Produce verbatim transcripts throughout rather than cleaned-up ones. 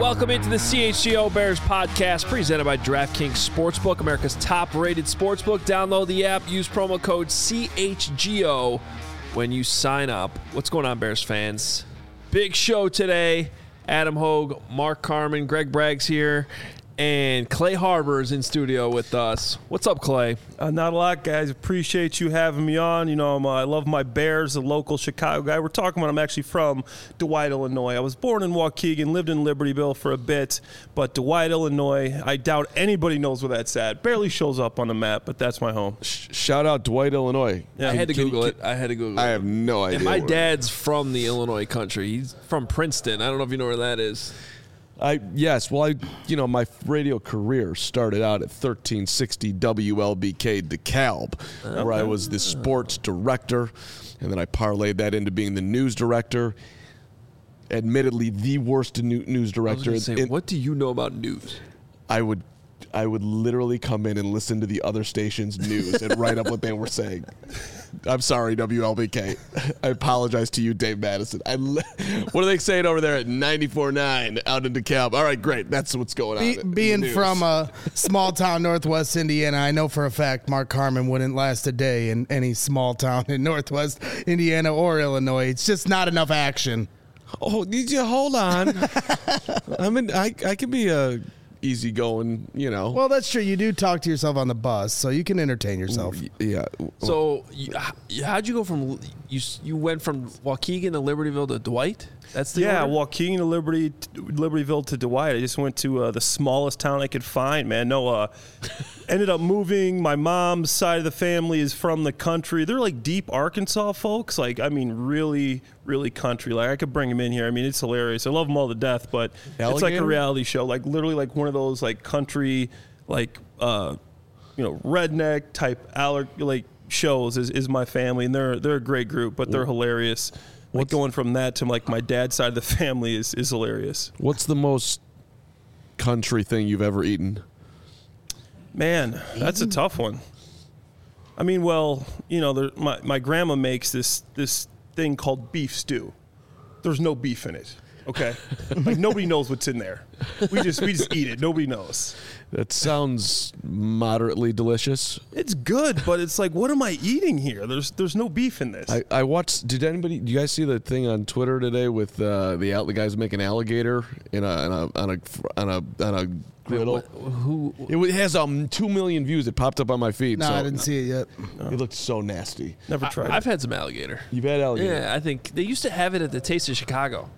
Welcome into the C H G O Bears podcast presented by DraftKings Sportsbook, America's top-rated sportsbook. Download the app. Use promo code C H G O when you sign up. What's going on, Bears fans? Big show today. Adam Hogue, Mark Carman, Greg Braggs here, and Clay Harbor is in studio with us. What's up, Clay? Uh, not a lot, guys. Appreciate you having me on. You know, I'm, uh, I love my Bears, a local Chicago guy. We're talking about I'm actually from Dwight, Illinois. I was born in Waukegan, lived in Libertyville for a bit, but Dwight, Illinois, I doubt anybody knows where that's at. Barely shows up on the map, but that's my home. Shout out Dwight, Illinois. Yeah, I had to Can- Google can- it. I had to Google it. I have no idea. And my where- dad's from the Illinois country. He's from Princeton. I don't know if you know where that is. I yes, well, I you know my radio career started out at thirteen sixty W L B K DeKalb, okay. where I was the sports director, and then I parlayed that into being the news director. Admittedly, the worst new, news director. I was gonna say, what do you know about news? I would, I would literally come in and listen to the other station's news and write up what they were saying. I'm sorry, W L B K. I apologize to you, Dave Madison. I, what are they saying over there at ninety-four point nine out in DeKalb? All right, great. That's what's going Be, on. Being from a small town, Northwest Indiana, I know for a fact Mark Carman wouldn't last a day in any small town in Northwest Indiana or Illinois. It's just not enough action. Oh, need you hold on. I mean, I I can be a easygoing, you know. Well, that's true. You do talk to yourself on the bus, so you can entertain yourself. Yeah. So, you, how'd you go from you? You went from Waukegan to Libertyville to Dwight? That's the Yeah, order? Waukegan to Liberty, Libertyville to Dwight. I just went to uh, the smallest town I could find, man. No, uh, ended up moving. My mom's side of the family is from the country. They're like deep Arkansas folks. Like, I mean, really, really country. Like, I could bring them in here. I mean, it's hilarious. I love them all to death, but Alligator? It's like a reality show. Like, literally like one of those, like, country, like, uh, you know, redneck type aller- like shows is, is my family. And they're, they're a great group, but they're hilarious. Like What's, going from that to like my dad's side of the family is, is hilarious. What's the most country thing you've ever eaten? Man, that's a tough one. I mean, well, you know, there, my my grandma makes this this thing called beef stew. There's no beef in it. Okay, like nobody knows what's in there. We just we just eat it. Nobody knows. That sounds moderately delicious. It's good, but it's like, what am I eating here? There's there's no beef in this. I, I watched. Did anybody? Do you guys see the thing on Twitter today with uh, the the guys making alligator in a, in a on a on a on a griddle? What, who? It has um two million views. It popped up on my feed. No, so I didn't see it yet. It looked so nasty. Never I, tried. I've it. had some alligator. You've had alligator. Yeah, I think they used to have it at the Taste of Chicago.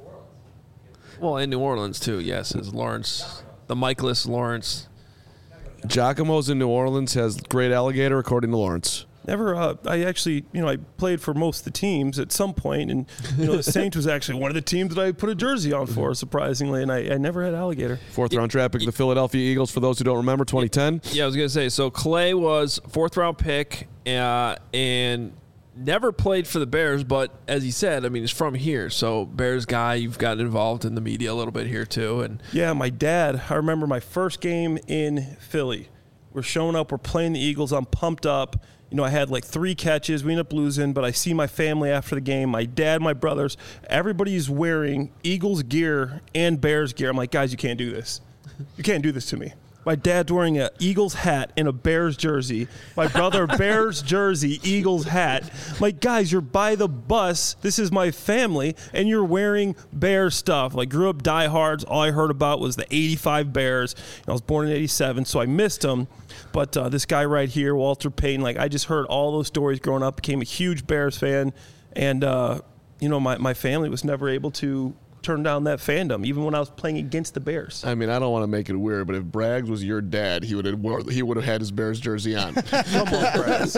Well, in New Orleans too. Yes, it's Lawrence, the Michaelis Lawrence. Giacomo's in New Orleans has great alligator, according to Lawrence. Never. Uh, I actually, you know, I played for most of the teams at some point, and you know, the Saints was actually one of the teams that I put a jersey on for, surprisingly, and I, I never had alligator. Fourth round draft pick, the Philadelphia Eagles. For those who don't remember, twenty ten. Yeah, I was gonna say. So Clay was fourth round pick, uh, and never played for the Bears, but as he said, I mean, he's from here, so Bears guy. You've gotten involved in the media a little bit here too, and Yeah, my dad, I remember my first game in Philly. We're showing up, we're playing the Eagles, I'm pumped up. You know, I had like three catches, we ended up losing, but I see my family after the game, my dad, my brothers, everybody's wearing Eagles gear and Bears gear. I'm like, guys, you can't do this. You can't do this to me. My dad's wearing an Eagles hat and a Bears jersey. My brother, Bears jersey, Eagles hat. I'm like, guys, you're by the bus. This is my family, and you're wearing Bears stuff. Like, grew up diehards. All I heard about was the eighty-five Bears. I was born in eighty-seven, so I missed them. But uh, this guy right here, Walter Payton, like, I just heard all those stories growing up, became a huge Bears fan. And, uh, you know, my, my family was never able to turn down that fandom, even when I was playing against the Bears. I mean, I don't want to make it weird, but if Braggs was your dad, he would have wore, he would have had his Bears jersey on. Come on, Braggs.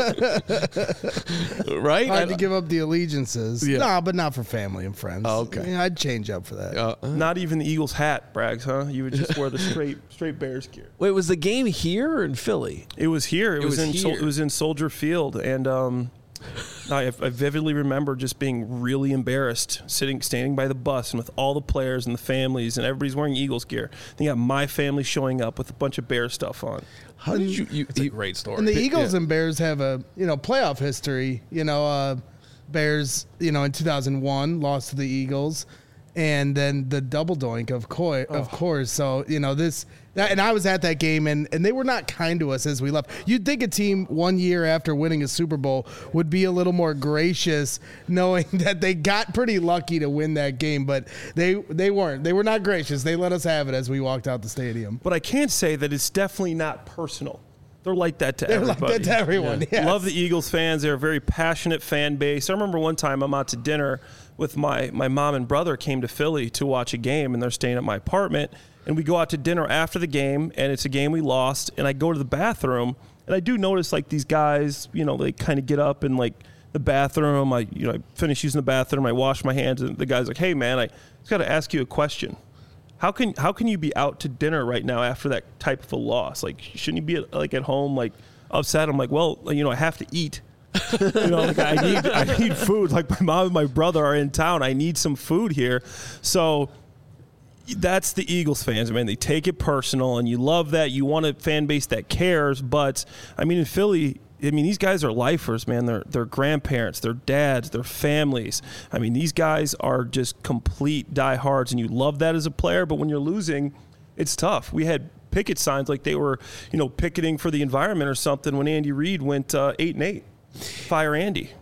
Right? Hard to give up the allegiances. Yeah. No, but not for family and friends. Oh, okay. Yeah, I'd change up for that. Uh, Not even the Eagles hat, Braggs, huh? You would just wear the straight straight Bears gear. wait, was the game here or in Philly? It was here. It, It was, was in Sol- here. it was in Soldier Field, and um, I, I vividly remember just being really embarrassed, sitting, standing by the bus, and with all the players and the families, and everybody's wearing Eagles gear. Then you got my family showing up with a bunch of Bears stuff on. how did you? you, It's a you great story. And the Eagles yeah. and Bears have a, you know, playoff history. You know, uh, Bears, you know, in two thousand one lost to the Eagles. and then the double doink, of course, oh. of course. So, you know, this, that, and I was at that game, and, and they were not kind to us as we left. You'd think a team one year after winning a Super Bowl would be a little more gracious, knowing that they got pretty lucky to win that game, but they they weren't. They were not gracious. They let us have it as we walked out the stadium. But I can't say that it's definitely not personal. They're like that to They're everybody. like that to everyone, yeah. Yes. Love the Eagles fans. They're a very passionate fan base. I remember one time I'm out to dinner with my, my mom and brother came to Philly to watch a game, and they're staying at my apartment. And we go out to dinner after the game, and it's a game we lost. And I go to the bathroom, and I do notice, like, these guys, you know, they kind of get up and, like, the bathroom. I, you know, I finish using the bathroom. I wash my hands, and the guy's like, hey, man, I just got to ask you a question. How can how can you be out to dinner right now after that type of a loss? Like, shouldn't you be like at home, like upset? I'm like, well, you know, I have to eat. you know, like I need I need food. Like my mom and my brother are in town. I need some food here. So that's the Eagles fans, man. They take it personal, and you love that. You want a fan base that cares. But I mean, in Philly, I mean, these guys are lifers, man. They're, they're grandparents, they're dads, they're families. I mean, these guys are just complete diehards, and you love that as a player. But when you're losing, it's tough. We had picket signs like they were, you know, picketing for the environment or something when Andy Reid went uh, eight and eight. Fire Andy.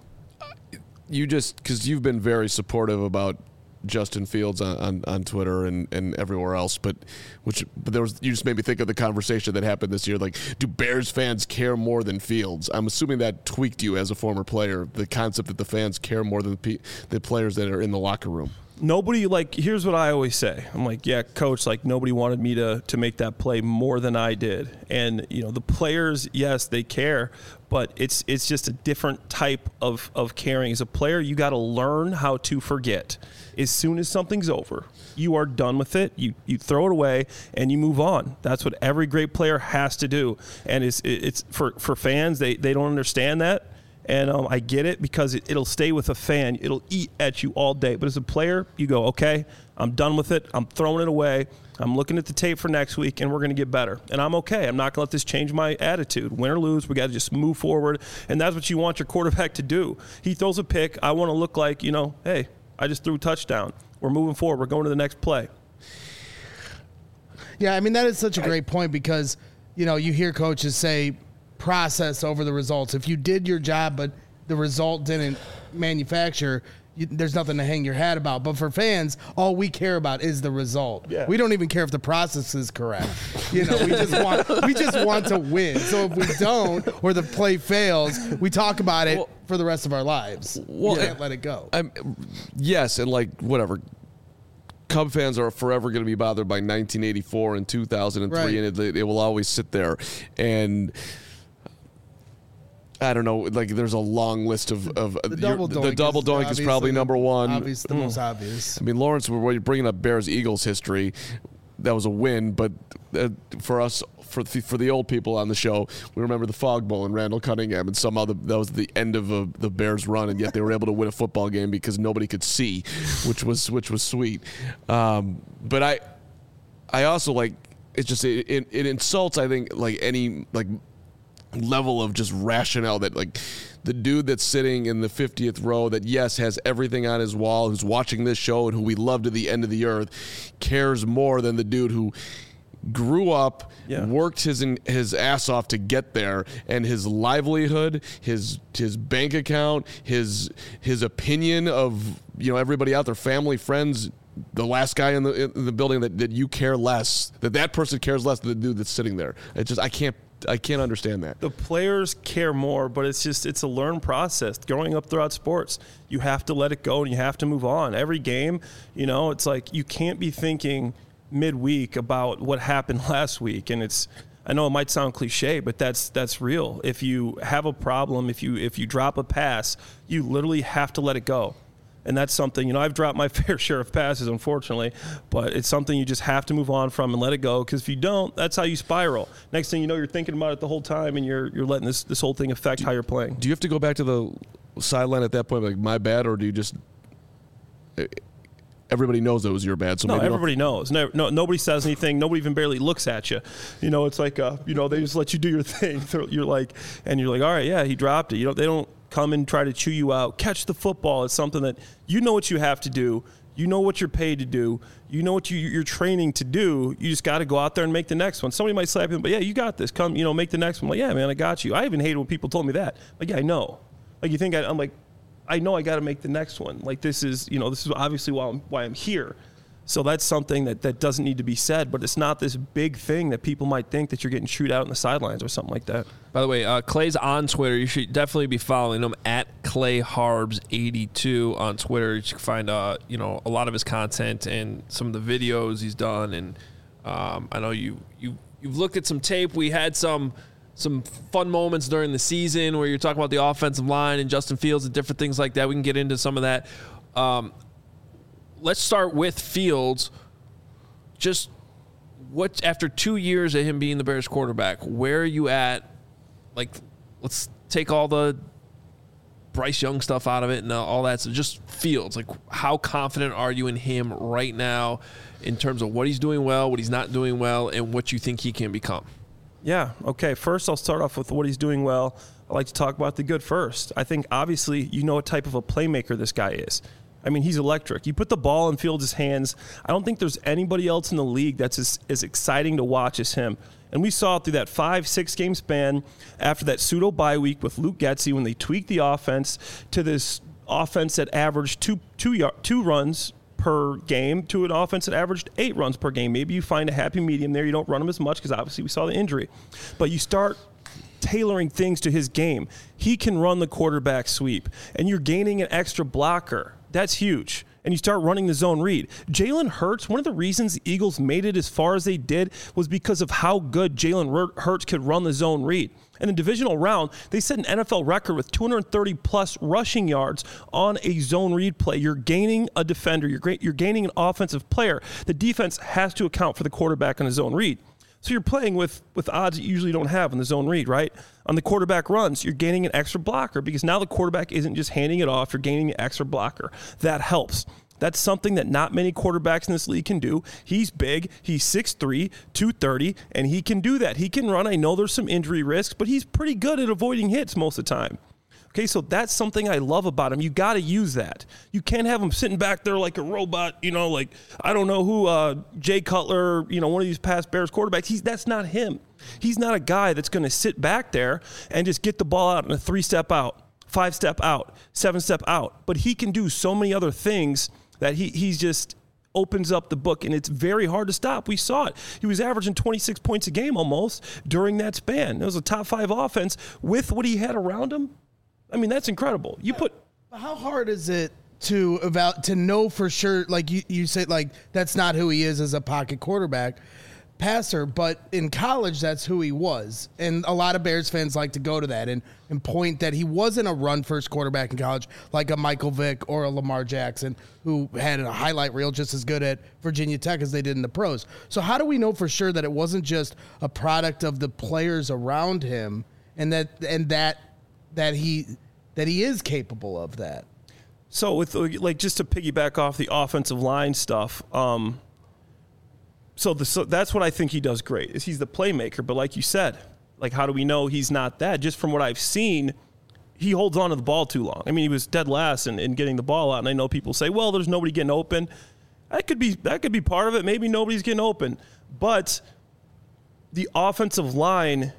You just, because you've been very supportive about Justin Fields on, on, on Twitter and, and everywhere else, but which but there was you just made me think of the conversation that happened this year. Like, do Bears fans care more than Fields? I'm assuming that tweaked you as a former player, the concept that the fans care more than the, the players that are in the locker room. Nobody, like, here's what I always say. I'm like, yeah, coach, like, nobody wanted me to to make that play more than I did. And, you know, the players, yes, they care, but it's it's just a different type of, of caring. As a player, you got to learn how to forget. As soon as something's over, you are done with it. You you throw it away and you move on. That's what every great player has to do. And it's it's for, for fans, they, they don't understand that. And um, I get it because it, it'll stay with a fan. It'll eat at you all day. But as a player, you go, okay, I'm done with it. I'm throwing it away. I'm looking at the tape for next week, and we're going to get better. And I'm okay. I'm not going to let this change my attitude. Win or lose, we got to just move forward. And that's what you want your quarterback to do. He throws a pick. I want to look like, you know, hey, I just threw a touchdown. We're moving forward. We're going to the next play. Yeah, I mean, that is such a great point because, you know, you hear coaches say process over the results. If you did your job but the result didn't manufacture, you, there's nothing to hang your hat about. But for fans, all we care about is the result. Yeah. We don't even care if the process is correct. You know, we just want we just want to win. So if we don't or the play fails, we talk about it well, for the rest of our lives. Well, we can't let it go. I'm, yes, and like whatever. Cub fans are forever going to be bothered by nineteen eighty-four and two thousand three, right. and it, it will always sit there. And I don't know, like there's a long list of, of the double doink, the double is, doink is probably number one. Obvious, the mm. most obvious. I mean, Lawrence, when you're bringing up Bears Eagles history, that was a win, but uh, for us, for the, for the old people on the show, we remember the Fog Bowl and Randall Cunningham, and somehow the, that was the end of a, the Bears' run, and yet they were able to win a football game because nobody could see, which was which was sweet. Um, but I, I also like it's just it, it, it insults I think like any like. level of just rationale that like the dude that's sitting in the fiftieth row that yes has everything on his wall, who's watching this show and who we love to the end of the earth, cares more than the dude who grew up, yeah. worked his his ass off to get there, and his livelihood, his his bank account, his his opinion of you know everybody out there, family, friends, the last guy in the in the building that, that you care less, that that person cares less than the dude that's sitting there. It just I can't I can't understand that. The players care more, but it's just it's a learned process. Growing up throughout sports, you have to let it go and you have to move on. Every game, you know, it's like you can't be thinking midweek about what happened last week. And it's I know it might sound cliche, but that's that's real. If you have a problem, if you if you drop a pass, you literally have to let it go. And that's something, you know, I've dropped my fair share of passes, unfortunately, but it's something you just have to move on from and let it go, because if you don't, that's how you spiral. Next thing you know, you're thinking about it the whole time, and you're you're letting this, this whole thing affect do, how you're playing. Do you have to go back to the sideline at that point, like, my bad, or do you just – everybody knows it was your bad? So no, maybe everybody knows. No, no, nobody says anything. Nobody even barely looks at you. You know, it's like, uh, you know, they just let you do your thing. You're like – and you're like, all right, yeah, he dropped it. You know, they don't – come and try to chew you out. Catch the football. It's something that you know what you have to do. You know what you're paid to do. You know what you, you're training to do. You just got to go out there and make the next one. Somebody might slap you, but yeah, you got this. Come, you know, make the next one. I'm like, yeah, man, I got you. I even hated when people told me that. Like, yeah, I know. Like, you think I, I'm like, I know I got to make the next one. Like, this is, you know, this is obviously why I'm, why I'm here. So that's something that, that doesn't need to be said, but it's not this big thing that people might think that you're getting chewed out in the sidelines or something like that. By the way, uh, Clay's on Twitter. You should definitely be following him at Clay Harbs eighty-two on Twitter. You can find uh, you know, a lot of his content and some of the videos he's done. And um, I know you you you've looked at some tape. We had some some fun moments during the season where you're talking about the offensive line and Justin Fields and different things like that. We can get into some of that. Um, Let's start with Fields. Just what, after two years of him being the Bears quarterback, where are you at? Like, let's take all the Bryce Young stuff out of it and all that. So just Fields, like, how confident are you in him right now in terms of what he's doing well, what he's not doing well, and what you think he can become? Yeah. Okay. First, I'll start off with what he's doing well. I like to talk about the good first. I think obviously you know what type of a playmaker this guy is. I mean, he's electric. You put the ball in Fields' hands. I don't think there's anybody else in the league that's as, as exciting to watch as him. And we saw it through that five, six-game span after that pseudo bye week with Luke Getsy when they tweaked the offense to this offense that averaged two, two, two runs per game to an offense that averaged eight runs per game. Maybe you find a happy medium there. You don't run him as much because obviously we saw the injury. But you start tailoring things to his game. He can run the quarterback sweep, and you're gaining an extra blocker. That's huge. And you start running the zone read. Jalen Hurts, one of the reasons the Eagles made it as far as they did was because of how good Jalen Hurts could run the zone read. In the divisional round, they set an N F L record with two hundred thirty plus rushing yards on a zone read play. You're gaining a defender. You're great. You're gaining an offensive player. The defense has to account for the quarterback on a zone read. So you're playing with, with odds you usually don't have in the zone read, right? On the quarterback runs, you're gaining an extra blocker because now the quarterback isn't just handing it off. You're gaining an extra blocker. That helps. That's something that not many quarterbacks in this league can do. He's big. He's six three, two thirty, and he can do that. He can run. I know there's some injury risks, but he's pretty good at avoiding hits most of the time. Okay, so that's something I love about him. You got to use that. You can't have him sitting back there like a robot, you know, like, I don't know who, uh, Jay Cutler, you know, one of these past Bears quarterbacks. He's That's not him. He's not a guy that's going to sit back there and just get the ball out in a three-step out, five-step out, seven-step out. But he can do so many other things that he he's just opens up the book, and it's very hard to stop. We saw it. He was averaging twenty-six points a game almost during that span. It was a top-five offense with what he had around him. I mean, that's incredible. You put how hard is it to eval- to know for sure? Like you, you say, like that's not who he is as a pocket quarterback passer, but in college, that's who he was. And a lot of Bears fans like to go to that and, and point that he wasn't a run-first quarterback in college like a Michael Vick or a Lamar Jackson, who had a highlight reel just as good at Virginia Tech as they did in the pros. So how do we know for sure that it wasn't just a product of the players around him and that and that that he that he is capable of that? So with like just to piggyback off the offensive line stuff, um, so, the, so that's what I think he does great is he's the playmaker. But like you said, like how do we know he's not that? Just from what I've seen, he holds on to the ball too long. I mean, he was dead last in, in getting the ball out, and I know people say, well, there's nobody getting open. That could be that could be part of it. Maybe nobody's getting open, but the offensive line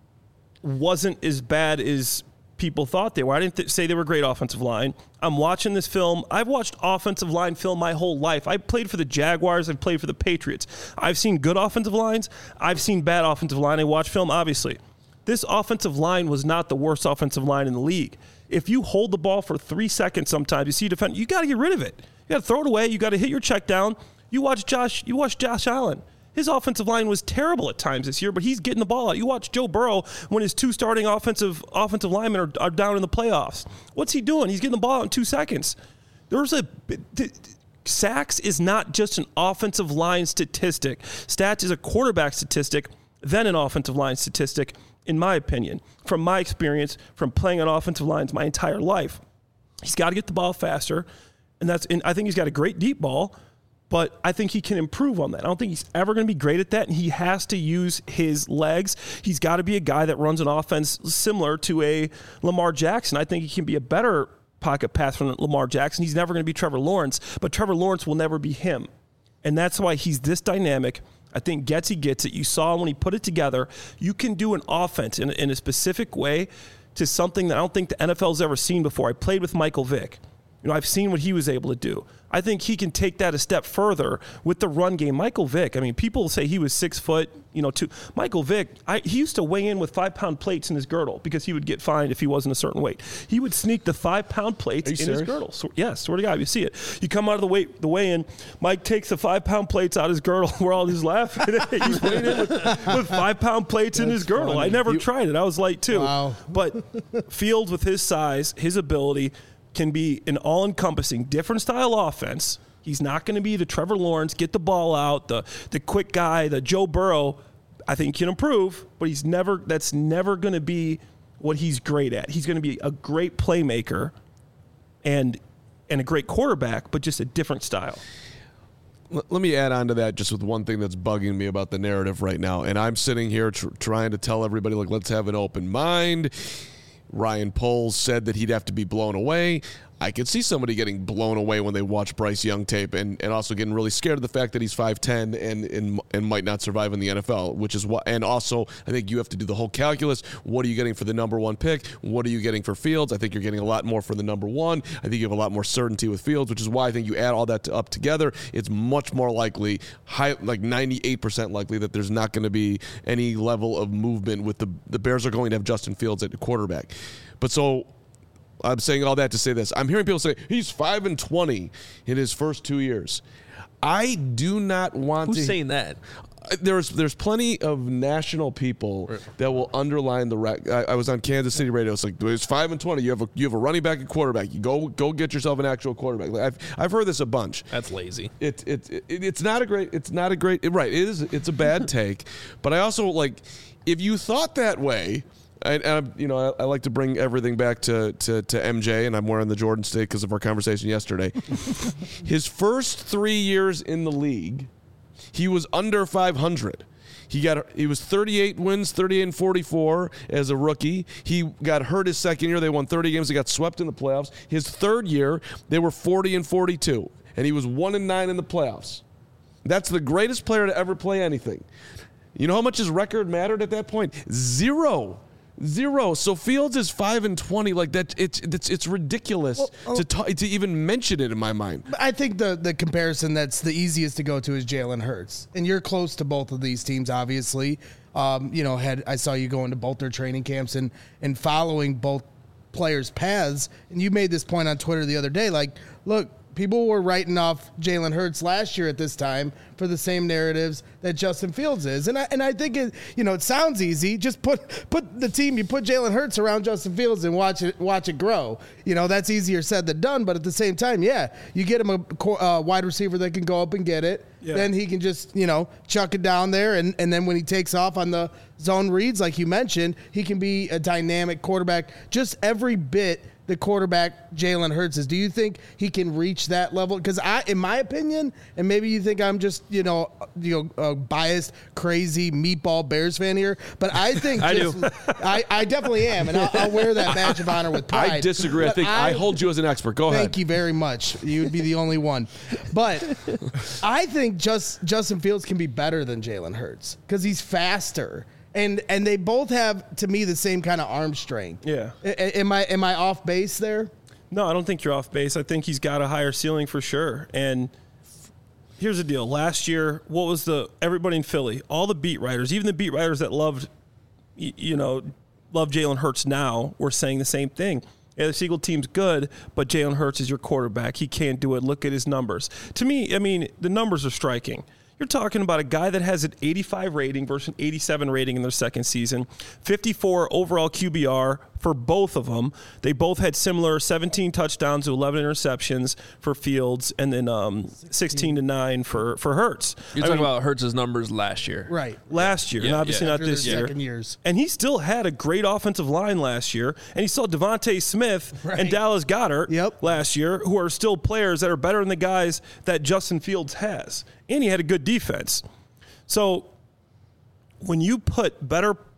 wasn't as bad as people thought they were. I didn't th- say they were a great offensive line. I'm watching this film. I've watched offensive line film my whole life. I played for the Jaguars. I've played for the Patriots. I've seen good offensive lines. I've seen bad offensive line. I watch film, obviously. This offensive line was not the worst offensive line in the league. If you hold the ball for three seconds sometimes, you see a defender, you got to get rid of it. You got to throw it away. You got to hit your check down. You watch Josh, you watch Josh Allen. His offensive line was terrible at times this year, but he's getting the ball out. You watch Joe Burrow when his two starting offensive offensive linemen are, are down in the playoffs. What's he doing? He's getting the ball out in two seconds. There's a th- sacks is not just an offensive line statistic. Stats is a quarterback statistic, then an offensive line statistic, in my opinion. From my experience, from playing on offensive lines my entire life, he's got to get the ball faster, and that's. And I think he's got a great deep ball. But I think he can improve on that. I don't think he's ever going to be great at that, and he has to use his legs. He's got to be a guy that runs an offense similar to a Lamar Jackson. I think he can be a better pocket pass from Lamar Jackson. He's never going to be Trevor Lawrence, but Trevor Lawrence will never be him. And that's why he's this dynamic. I think Getsy gets it. You saw when he put it together, you can do an offense in, in a specific way to something that I don't think the N F L's ever seen before. I played with Michael Vick. You know, I've seen what he was able to do. I think he can take that a step further with the run game. Michael Vick, I mean, people say he was six foot, you know, two. Michael Vick, I, he used to weigh in with five-pound plates in his girdle because he would get fined if he wasn't a certain weight. He would sneak the five-pound plates in serious? his girdle. So, yeah, swear to God, you see it. You come out of the weigh, the weigh-in, Mike takes the five-pound plates out of his girdle. We're all just laughing. He's weighing in with, with five-pound plates That's in his girdle. funny. I never You, tried it. I was light, too. Wow. But Fields, with his size, his ability, can be an all-encompassing, different style offense. He's not going to be the Trevor Lawrence, get the ball out, the the quick guy, the Joe Burrow. I think he can improve, but he's never. That's never going to be what he's great at. He's going to be a great playmaker, and and a great quarterback, but just a different style. Let me add on to that just with one thing that's bugging me about the narrative right now. And I'm sitting here tr- trying to tell everybody, like, let's have an open mind. Ryan Poles said that he'd have to be blown away. I could see somebody getting blown away when they watch Bryce Young tape and, and also getting really scared of the fact that he's five ten and, and and might not survive in the N F L, which is what. And also, I think you have to do the whole calculus. What are you getting for the number one pick? What are you getting for Fields? I think you're getting a lot more for the number one. I think you have a lot more certainty with Fields, which is why I think you add all that to, up together. It's much more likely, high, like ninety-eight percent likely, that there's not going to be any level of movement with the the Bears are going to have Justin Fields at quarterback. But so. I'm saying all that to say this. I'm hearing people say he's five and twenty in his first two years. I do not want Who's to. Who's saying that? There's there's plenty of national people that will underline the. Rec- I, I was on Kansas City radio. It's like it's five and twenty. You have a you have a running back and quarterback. You go go get yourself an actual quarterback. Like, I've I've heard this a bunch. That's lazy. It it, it it's not a great. It's not a great. Right. It is. It's a bad take. But I also like if you thought that way. I, I, you know, I, I like to bring everything back to, to, to M J, and I'm wearing the Jordan State because of our conversation yesterday. His first three years in the league, he was under five hundred. He got he was thirty-eight wins, thirty-eight and forty-four as a rookie. He got hurt his second year. They won thirty games. They got swept in the playoffs. His third year, they were forty and forty-two, and he was one and nine in the playoffs. That's the greatest player to ever play anything. You know how much his record mattered at that point? Zero. Zero. So Fields is five and twenty. Like that, it's it's it's ridiculous well, oh, to ta- to even mention it in my mind. I think the the comparison that's the easiest to go to is Jalen Hurts, and you're close to both of these teams, obviously. Um, you know, had I saw you going to both their training camps and and following both players' paths, and you made this point on Twitter the other day. Like, look. People were writing off Jalen Hurts last year at this time for the same narratives that Justin Fields is, and I and I think it you know it sounds easy. Just put put the team, you put Jalen Hurts around Justin Fields and watch it watch it grow. You know that's easier said than done. But at the same time, yeah, you get him a uh, wide receiver that can go up and get it. Yeah. Then he can just you know chuck it down there, and and then when he takes off on the zone reads, like you mentioned, he can be a dynamic quarterback. Just every bit. The quarterback Jalen Hurts is. Do you think he can reach that level? Because I, in my opinion, and maybe you think I'm just you know you know a biased, crazy meatball Bears fan here, but I think I just, do. I, I definitely am, and I'll, I'll wear that badge of honor with pride. I disagree. But I think I, I hold you as an expert. Go thank ahead. Thank you very much. You would be the only one, but I think just Justin Fields can be better than Jalen Hurts because he's faster. And and they both have, to me, the same kind of arm strength. Yeah. A- am I am I off base there? No, I don't think you're off base. I think he's got a higher ceiling for sure. And here's the deal. Last year, what was the everybody in Philly, all the beat writers, even the beat writers that loved, you know, love Jalen Hurts now, were saying the same thing. Yeah, the Seagull team's good, but Jalen Hurts is your quarterback. He can't do it. Look at his numbers. To me, I mean, the numbers are striking. You're talking about a guy that has an eighty-five rating versus an eighty-seven rating in their second season, fifty-four overall Q B R for both of them. They both had similar seventeen touchdowns to eleven interceptions for Fields, and then um, sixteen to nine for, for Hurts. You're I talking mean, about Hurts' numbers last year. Right. Last year, Yeah, and obviously yeah. not After this the year. second years. And he still had a great offensive line last year, and he saw Devontae Smith Right. and Dallas Goedert Yep. last year, who are still players that are better than the guys that Justin Fields has. And he had a good defense. So when you put better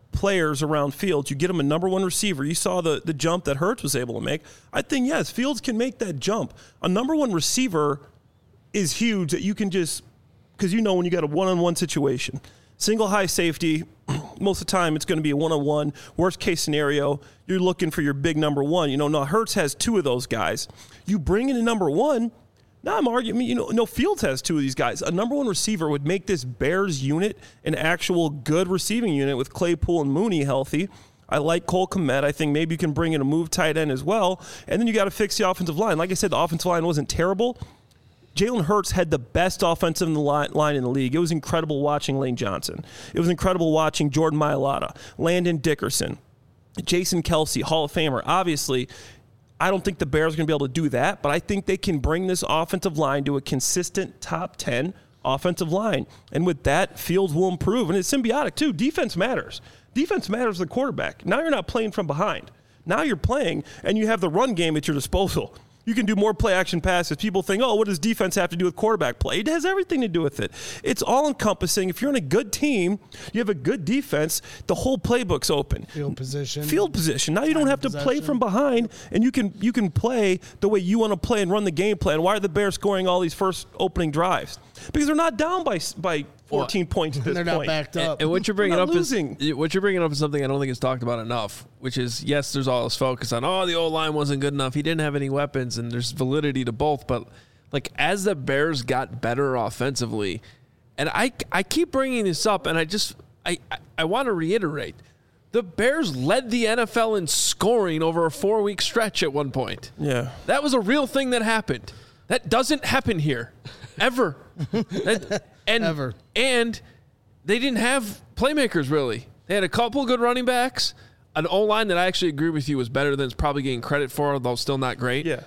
players around Fields. You get him a number one receiver. You saw the, the jump that Hurts was able to make. I think, yes, Fields can make that jump. A number one receiver is huge that you can just, because you know when you got a one-on-one situation, single high safety, most of the time it's going to be a one-on-one. Worst case scenario, you're looking for your big number one. You know, now Hurts has two of those guys. You bring in a number one, now I'm arguing, you know, no, Fields has two of these guys. A number one receiver would make this Bears unit an actual good receiving unit with Claypool and Mooney healthy. I like Cole Kmet. I think maybe you can bring in a move tight end as well. And then you got to fix the offensive line. Like I said, the offensive line wasn't terrible. Jalen Hurts had the best offensive line in the league. It was incredible watching Lane Johnson. It was incredible watching Jordan Mailata, Landon Dickerson, Jason Kelce, Hall of Famer. Obviously, I don't think the Bears are going to be able to do that, but I think they can bring this offensive line to a consistent top ten offensive line. And with that, Fields will improve. And it's symbiotic, too. Defense matters. Defense matters to the quarterback. Now you're not playing from behind. Now you're playing, and you have the run game at your disposal. You can do more play-action passes. People think, oh, what does defense have to do with quarterback play? It has everything to do with it. It's all-encompassing. If you're in a good team, you have a good defense, the whole playbook's open. Field position. Field position. Now you don't have to possession. play from behind, and you can you can play the way you want to play and run the game plan. Why are the Bears scoring all these first opening drives? Because they're not down by by fourteen well, points at this they're point. They're not backed up. And, and what you're bringing up losing. is what you're bringing up is something I don't think is talked about enough, which is, yes, there's all this focus on, oh, the O-line wasn't good enough. He didn't have any weapons, and there's validity to both. But, like, as the Bears got better offensively, and I, I keep bringing this up, and I just I, I, I want to reiterate, the Bears led the N F L in scoring over a four-week stretch at one point. Yeah. That was a real thing that happened. That doesn't happen here. Ever. that, and, Ever. And they didn't have playmakers, really. They had a couple good running backs, an O-line that I actually agree with you was better than it's probably getting credit for, although still not great. Yeah.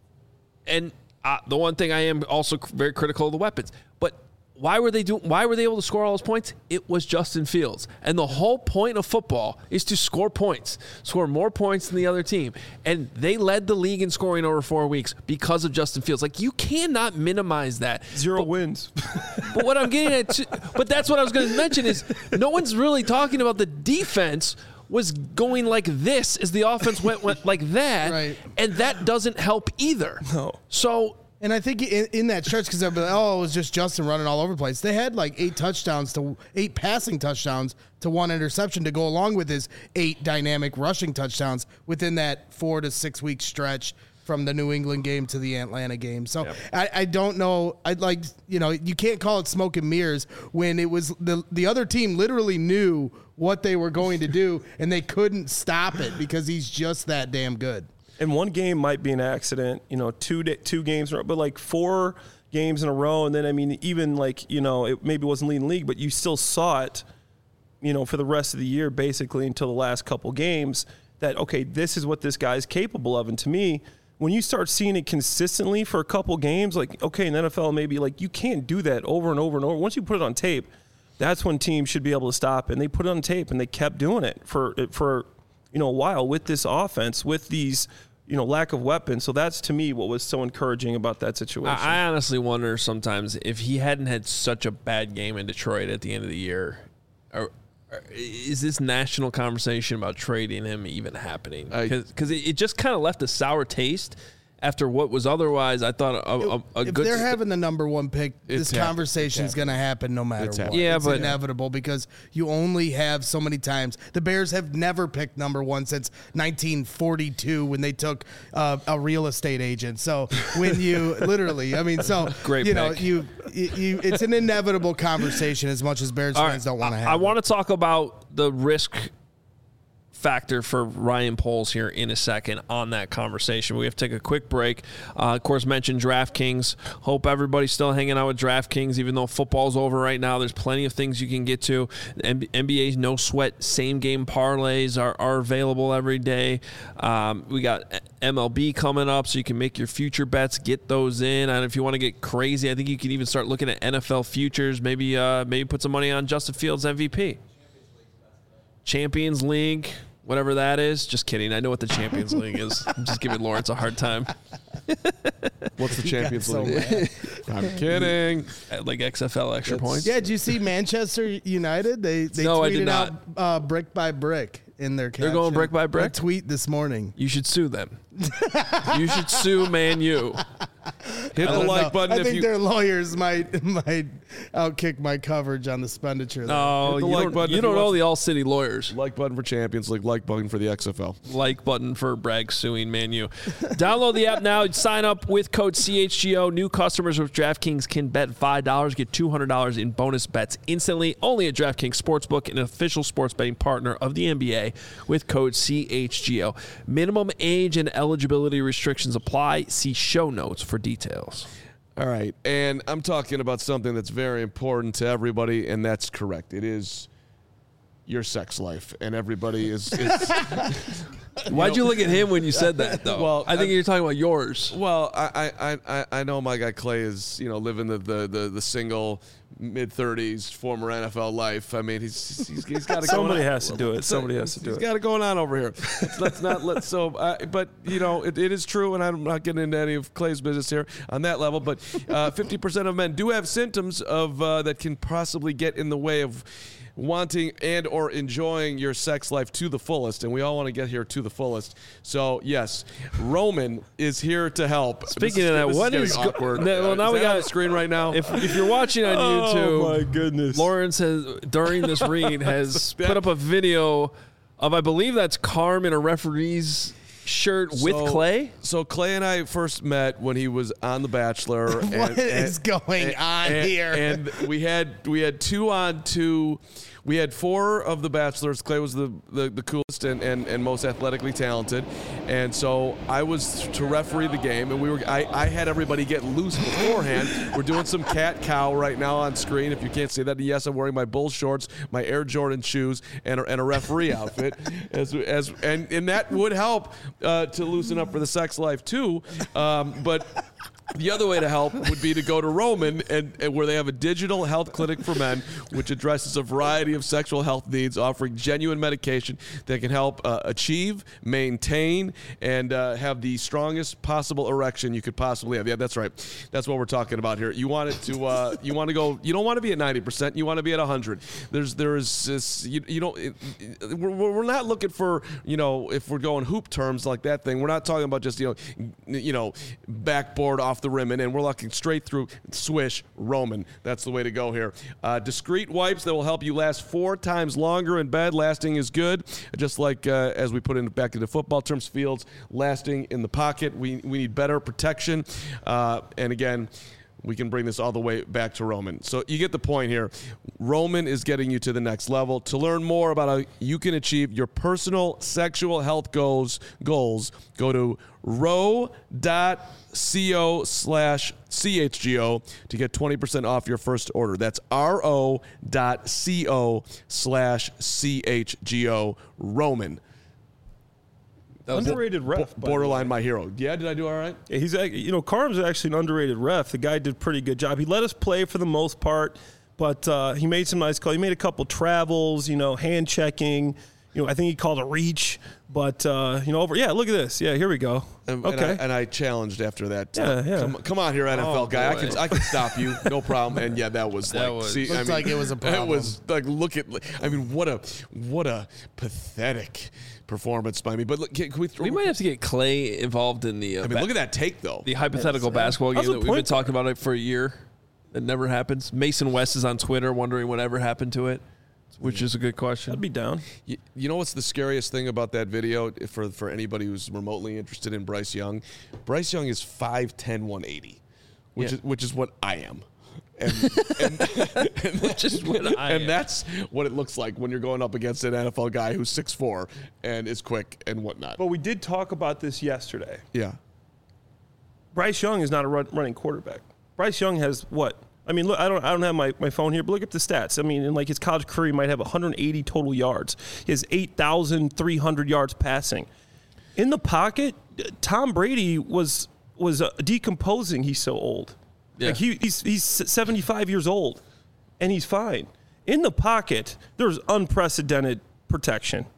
And uh, the one thing I am also very critical of the weapons. But why were they doing? Why were they able to score all those points? It was Justin Fields. And the whole point of football is to score points, score more points than the other team. And they led the league in scoring over four weeks because of Justin Fields. Like, you cannot minimize that. Zero but, wins. But what I'm getting at, but that's what I was going to mention is no one's really talking about the defense was going like this as the offense went, went like that. Right. And that doesn't help either. No. So. And I think in, in that stretch, because they're like, oh, it was just Justin running all over the place. They had like eight touchdowns to eight passing touchdowns to one interception to go along with his eight dynamic rushing touchdowns within that four to six week stretch from the New England game to the Atlanta game. So yep. I, I don't know. I'd like, you know, you can't call it smoke and mirrors when it was the the other team literally knew what they were going to do and they couldn't stop it because he's just that damn good. And one game might be an accident, you know, two two games, but like four games in a row. And then, I mean, even like, you know, it maybe wasn't leading the league, but you still saw it, you know, for the rest of the year, basically until the last couple games that, okay, this is what this guy's capable of. And to me, when you start seeing it consistently for a couple games, like, okay, in the N F L, maybe like you can't do that over and over and over. Once you put it on tape, that's when teams should be able to stop. And they put it on tape and they kept doing it for, for you know, a while with this offense, with these – you know, lack of weapons. So that's, to me, what was so encouraging about that situation. I honestly wonder sometimes if he hadn't had such a bad game in Detroit at the end of the year, or, or is this national conversation about trading him even happening? Because it, it just kind of left a sour taste after what was otherwise, I thought, a, a, a if good... If they're having the number one pick, it's this conversation is going to happen no matter it's what. Yeah, it's but, inevitable because you only have so many times. The Bears have never picked number one since nineteen forty-two when they took uh, a real estate agent. So when you literally, I mean, so Great you know, pick. you, you, you, it's an inevitable conversation as much as Bears All fans right, don't want to have. I, I it. want to talk about the risk factor for Ryan Poles here in a second on that conversation. We have to take a quick break. Uh, of course, mentioned DraftKings. Hope everybody's still hanging out with DraftKings, even though football's over right now. There's plenty of things you can get to. N B A's no sweat same game parlays are, are available every day. Um, we got M L B coming up, so you can make your future bets, get those in. And if you want to get crazy, I think you can even start looking at N F L futures. Maybe uh, maybe put some money on Justin Fields M V P. Champions League. Whatever that is. Just kidding. I know what the Champions League is. I'm just giving Lawrence a hard time. What's the Champions so League? I'm kidding. At like X F L extra That's- points. Yeah, did you see Manchester United? They they No, I tweeted did not. out uh, brick by brick in their caption. They're going brick by brick? A tweet this morning. You should sue them. You should sue Man U. Hit I the don't like know. button I if think you. their lawyers might might outkick my coverage on the expenditure. there. No, Hit the you like don't, button you if don't you know want- the All City lawyers. Like button for Champions League, like button for the X F L. Like button for Bragg suing Man U. Download the app now. Sign up with code C H G O. New customers with DraftKings can bet five dollars, get two hundred dollars in bonus bets instantly. Only at DraftKings Sportsbook, an official sports betting partner of the N B A, with code C H G O. Minimum age and eligibility restrictions apply. See show notes for details. All right, and I'm talking about something that's very important to everybody, and that's correct. It is your sex life, and everybody is. is Why'd you look at him when you said that, though? Well, I think I- you're talking about yours. well, I, I, I, I know my guy Clay is you know living the the the, the single mid thirties former N F L life. I mean, he's he's, he's got to. Somebody has to do it. Somebody has to do He's it. got it going on over here. Let's, let's not let so. Uh, but you know, it, it is true, and I'm not getting into any of Clay's business here on that level. But uh, fifty percent of men do have symptoms of uh, that can possibly get in the way of wanting and or enjoying your sex life to the fullest, and we all want to get here to the fullest. So yes, Roman is here to help. Speaking This of that, this what getting is go- awkward? No, well, Uh, now is we that got- on the screen right now. If, if you're watching on YouTube, Oh my goodness. Lawrence has, during this read, has put up a video of, I believe that's Carm in a referee's shirt with So- Clay. So Clay and I first met when he was on The Bachelor. and, What and- is going and- on and- here? And we had we had two on two. We had four of the Bachelors. Clay was the, the, the coolest and, and, and most athletically talented. And so I was to referee the game, and we were I, I had everybody get loose beforehand. We're doing some cat cow right now on screen. If you can't see that, yes, I'm wearing my Bull shorts, my Air Jordan shoes, and a, and a referee outfit. As, as and, and that would help uh, to loosen up for the sex life too. Um, but the other way to help would be to go to Roman, and, and where they have a digital health clinic for men, which addresses a variety of sexual health needs, offering genuine medication that can help uh, achieve, maintain, and uh, have the strongest possible erection you could possibly have. Yeah, that's right. That's what we're talking about here. You want it to, uh, you want to go. You don't want to be at ninety percent. You want to be at one hundred. There's, there is this. You, you don't. It, it, we're, we're not looking for, you know, if we're going hoop terms like that thing. We're not talking about just you know, you know, backboard off the rim and in. We're looking straight through. Swish Roman. That's the way to go here. Uh, discreet wipes that will help you last four times longer in bed. Lasting is good, just like uh, as we put in back into football terms, Fields lasting in the pocket. We we need better protection, uh, and again, we can bring this all the way back to Roman. So you get the point here. Roman is getting you to the next level. To learn more about how you can achieve your personal sexual health goals, goals go to ro dot co slash C H G O to get twenty percent off your first order. That's ro dot co slash C H G O. Roman. Underrated ref. by the Borderline way. my hero. Yeah, did I do all right? Yeah, he's ac- you know Carm's actually an underrated ref. The guy did a pretty good job. He let us play for the most part, but uh, he made some nice calls. He made a couple travels, you know, hand checking. You know, I think he called a reach, but uh, you know, over. Yeah, look at this. Yeah, here we go. And, okay. and, I, and I challenged after that. Yeah, yeah. Come, come on here, N F L Oh, guy. I boy. can I can stop you, no problem. And yeah, that was That like, was- see, I Looked mean, like it was a problem. It was like, look at. I mean, what a what a pathetic performance by me. But look, can, can we? Throw, We might have to get Clay involved in the uh, I mean, ba- look at that take though. the hypothetical basketball How's game the that we've been point talking about it for a year. That never happens. Mason West is on Twitter wondering whatever happened to it, which is a good question. I'd be down. You, you know what's the scariest thing about that video for for anybody who's remotely interested in Bryce Young? Bryce Young is five ten, one eighty, which Yeah. is which is what I am. And, and, and, Which is what I and am. that's what it looks like when you're going up against an N F L guy who's six four and is quick and whatnot. But we did talk about this yesterday. Yeah. Bryce Young is not a run, running quarterback. Bryce Young has what? I mean, look, I don't, I don't have my, my phone here, but look at the stats. I mean, in like his college career, he might have one hundred eighty total yards. He has eight thousand three hundred yards passing. In the pocket, Tom Brady was was uh, decomposing. He's so old. Yeah. Like he, he's he's seventy-five years old, and he's fine. In the pocket, there's unprecedented protection.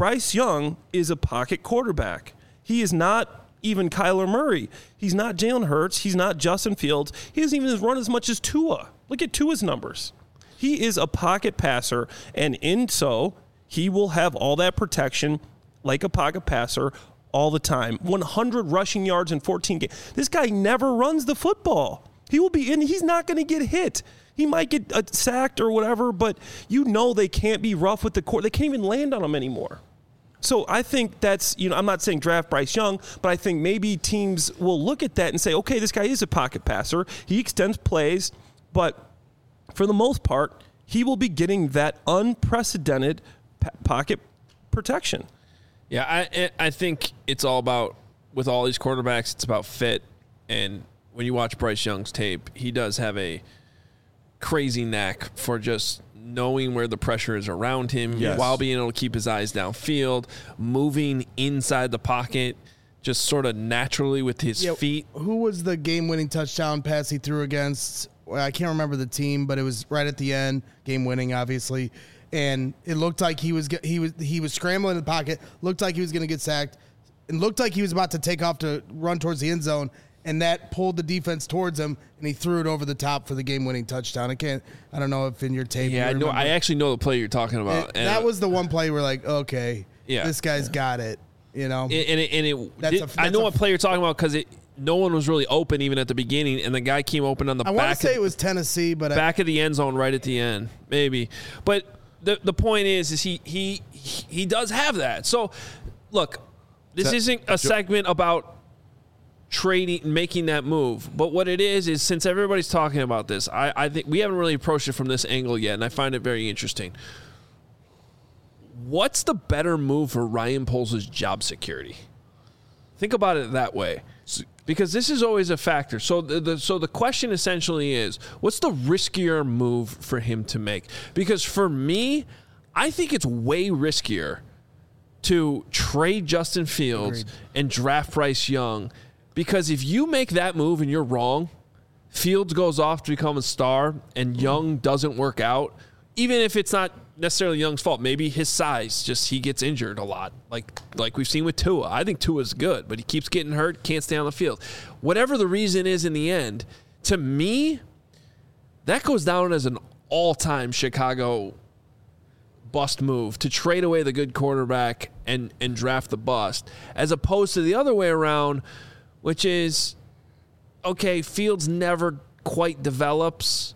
Bryce Young is a pocket quarterback. He is not even Kyler Murray. He's not Jalen Hurts. He's not Justin Fields. He doesn't even run as much as Tua. Look at Tua's numbers. He is a pocket passer, and in so, he will have all that protection like a pocket passer all the time. one hundred rushing yards in fourteen games. This guy never runs the football. He will be in. He's not going to get hit. He might get uh, sacked or whatever, but you know they can't be rough with the court. They can't even land on him anymore. So I think that's, you know, I'm not saying draft Bryce Young, but I think maybe teams will look at that and say, okay, this guy is a pocket passer. He extends plays, but for the most part, he will be getting that unprecedented p- pocket protection. Yeah, I I think it's all about, with all these quarterbacks, it's about fit. And when you watch Bryce Young's tape, he does have a crazy knack for just knowing where the pressure is around him yes. while being able to keep his eyes downfield, moving inside the pocket just sort of naturally with his Yeah, feet. Who was the game-winning touchdown pass he threw against? Well, I can't remember the team, but it was right at the end, game-winning, obviously. And it looked like he was he was he was scrambling in the pocket, looked like he was going to get sacked, and looked like he was about to take off to run towards the end zone, and that pulled the defense towards him, and he threw it over the top for the game-winning touchdown. I can't, I don't know if in your tape. Yeah, you I know. remember. I actually know the play you're talking about. It, that was the one play where like, okay, Yeah. this guy's got it. You know, and, and it, and it That's did, a- I that's know a- what play you're talking about because it no one was really open even at the beginning, and the guy came open on the I want back to say of, it was Tennessee, but I, back of the end zone right at the end, maybe. But the the point is, is he he he does have that. So, look, this That- isn't a segment about trading, making that move. But what it is is, since everybody's talking about this, I, I think we haven't really approached it from this angle yet, and I find it very interesting. What's the better move for Ryan Poles' job security? Think about it that way, because this is always a factor. So the, the so the question essentially is, what's the riskier move for him to make? Because for me, I think it's way riskier to trade Justin Fields Agreed. and draft Bryce Young, because if you make that move and you're wrong, Fields goes off to become a star and Young doesn't work out, even if it's not necessarily Young's fault, maybe his size, just he gets injured a lot, like like we've seen with Tua. I think Tua's good, but he keeps getting hurt, can't stay on the field. Whatever the reason is in the end, to me, that goes down as an all-time Chicago bust move, to trade away the good quarterback and, and draft the bust, as opposed to the other way around, which is, okay, Fields never quite develops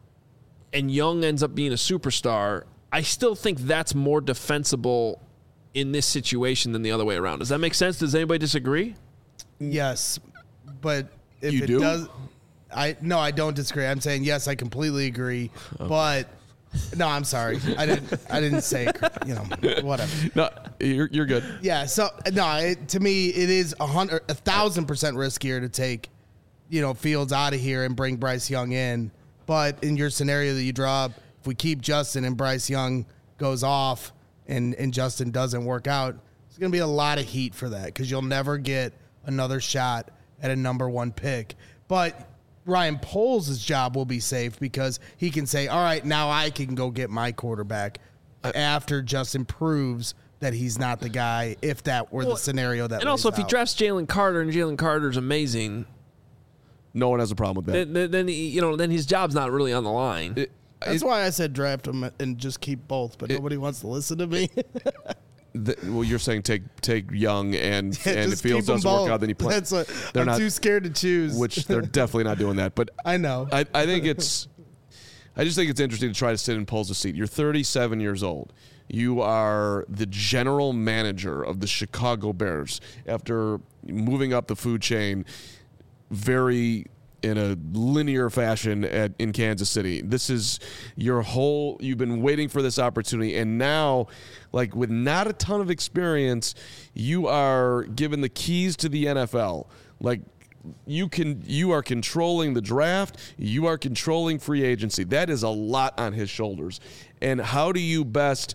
and Young ends up being a superstar. I still think that's more defensible in this situation than the other way around. Does that make sense? Does anybody disagree? yes, but if You it do? does, I no, I don't disagree. I'm saying yes, I completely agree, but no, I'm sorry, I didn't, I didn't say, you know, whatever. No, you're you're good. Yeah, so no, it, to me, it is a hundred, a thousand percent riskier to take, you know, Fields out of here and bring Bryce Young in. But in your scenario that you draw up, if we keep Justin and Bryce Young goes off and, and Justin doesn't work out, there's going to be a lot of heat for that because you'll never get another shot at a number one pick. But Ryan Poles' job will be safe because he can say, all right, now I can go get my quarterback after Justin proves that he's not the guy, if that were Well, the scenario that And also, lays if he out. drafts Jalen Carter and Jalen Carter's amazing, No one has a problem with that. then, then, then he- you know, then his job's not really on the line. It- That's it- why I said draft him and just keep both, but nobody wants to listen to me. the- well, you're saying take take Young and Yeah, and if just Fields keep 'em doesn't work both. out, then you play. That's what, They're I'm not- too scared to choose. Which they're definitely not doing that. But I know. I, I think it's I just think it's interesting to try to sit in Poles' seat. You're thirty-seven years old. You are the general manager of the Chicago Bears after moving up the food chain very in a linear fashion at, in Kansas City. This is your whole, you've been waiting for this opportunity, and now, like, with not a ton of experience, you are given the keys to the N F L. Like, you can, you are controlling the draft, you are controlling free agency. That is a lot on his shoulders. And how do you best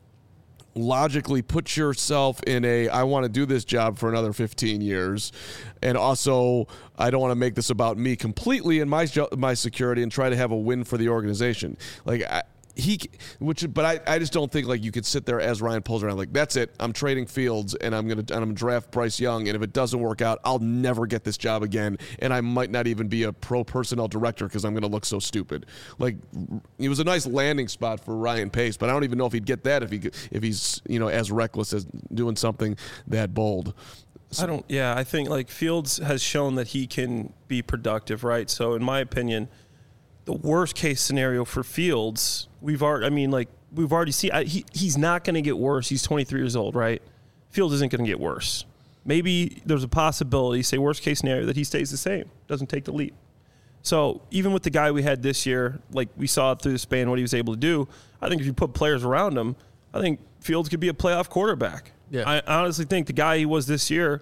logically put yourself in a, I want to do this job for another fifteen years, and also I don't want to make this about me completely and my jo- my security and try to have a win for the organization. Like, I, he, which, but I, I just don't think like you could sit there as Ryan pulls around like that's it. I'm trading Fields and I'm gonna and I'm gonna draft Bryce Young, and if it doesn't work out, I'll never get this job again, and I might not even be a pro personnel director because I'm gonna look so stupid. Like it was a nice landing spot for Ryan Pace, but I don't even know if he'd get that if he if he's you know as reckless as doing something that bold. I don't. Yeah, I think like Fields has shown that he can be productive, right? So in my opinion, the worst case scenario for Fields, we've already. I mean, like we've already seen. I, he he's not going to get worse. He's twenty-three years old, right? Fields isn't going to get worse. Maybe there's a possibility, say worst case scenario, that he stays the same, doesn't take the leap. So even with the guy we had this year, like we saw through the span what he was able to do, I think if you put players around him, I think Fields could be a playoff quarterback. Yeah. I honestly think the guy he was this year,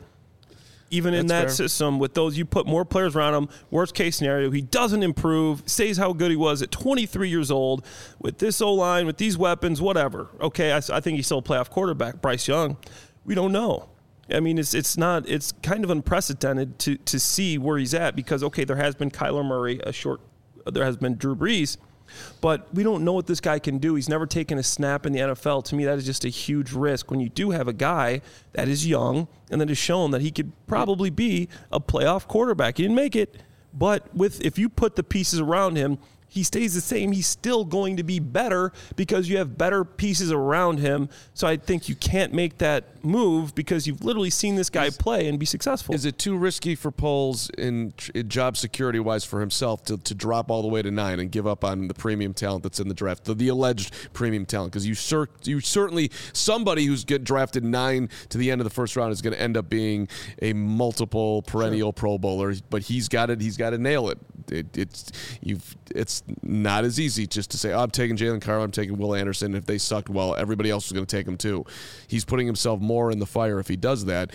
even in That's that fair. system, with those, you put more players around him, worst case scenario, he doesn't improve, stays how good he was at twenty-three years old, with this O-line, with these weapons, whatever. Okay, I, I think he's still a playoff quarterback. Bryce Young, we don't know. I mean, it's it's not, it's kind of unprecedented to to see where he's at because, okay, there has been Kyler Murray, a short, there has been Drew Brees, but we don't know what this guy can do. He's never taken a snap in the N F L. To me, that is just a huge risk when you do have a guy that is young and that has shown that he could probably be a playoff quarterback. He didn't make it, but with if you put the pieces around him, he stays the same. He's still going to be better because you have better pieces around him. So I think you can't make that move because you've literally seen this guy play and be successful. Is it too risky for Poles in, in job security-wise for himself to, to drop all the way to nine and give up on the premium talent that's in the draft, the, the alleged premium talent? Because you, cer- you certainly, somebody who's get drafted nine to the end of the first round is going to end up being a multiple perennial sure. Pro Bowler, but he's got it. He's got to nail it. It, it's you've it's not as easy just to say, oh, I'm taking Jalen Carter, I'm taking Will Anderson. If they sucked, well, everybody else is going to take him too. He's putting himself more in the fire if he does that.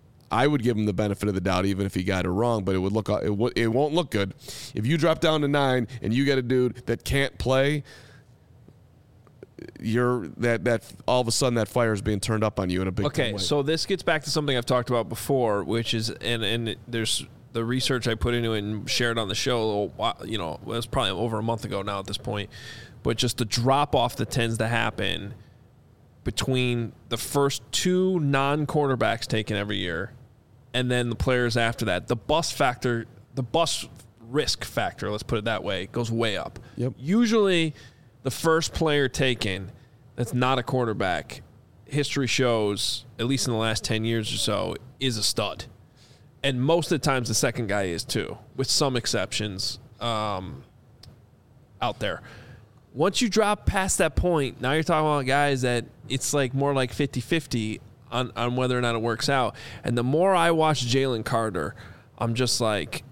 I would give him the benefit of the doubt, even if he got it wrong, but it would look it, w- it won't look good if you drop down to nine and you get a dude that can't play. You're that that all of a sudden that fire is being turned up on you in a big okay. way. So this gets back to something I've talked about before, which is and and there's. The research I put into it and shared on the show, you know, it was probably over a month ago now at this point, but just the drop-off that tends to happen between the first two non-quarterbacks taken every year and then the players after that. The bust factor, the bust risk factor, let's put it that way, goes way up. Yep. Usually the first player taken that's not a quarterback, history shows, at least in the last ten years or so, is a stud. And most of the times the second guy is too, with some exceptions um, out there. Once you drop past that point, now you're talking about guys that it's like more like fifty-fifty on, on whether or not it works out. And the more I watch Jalen Carter, I'm just like...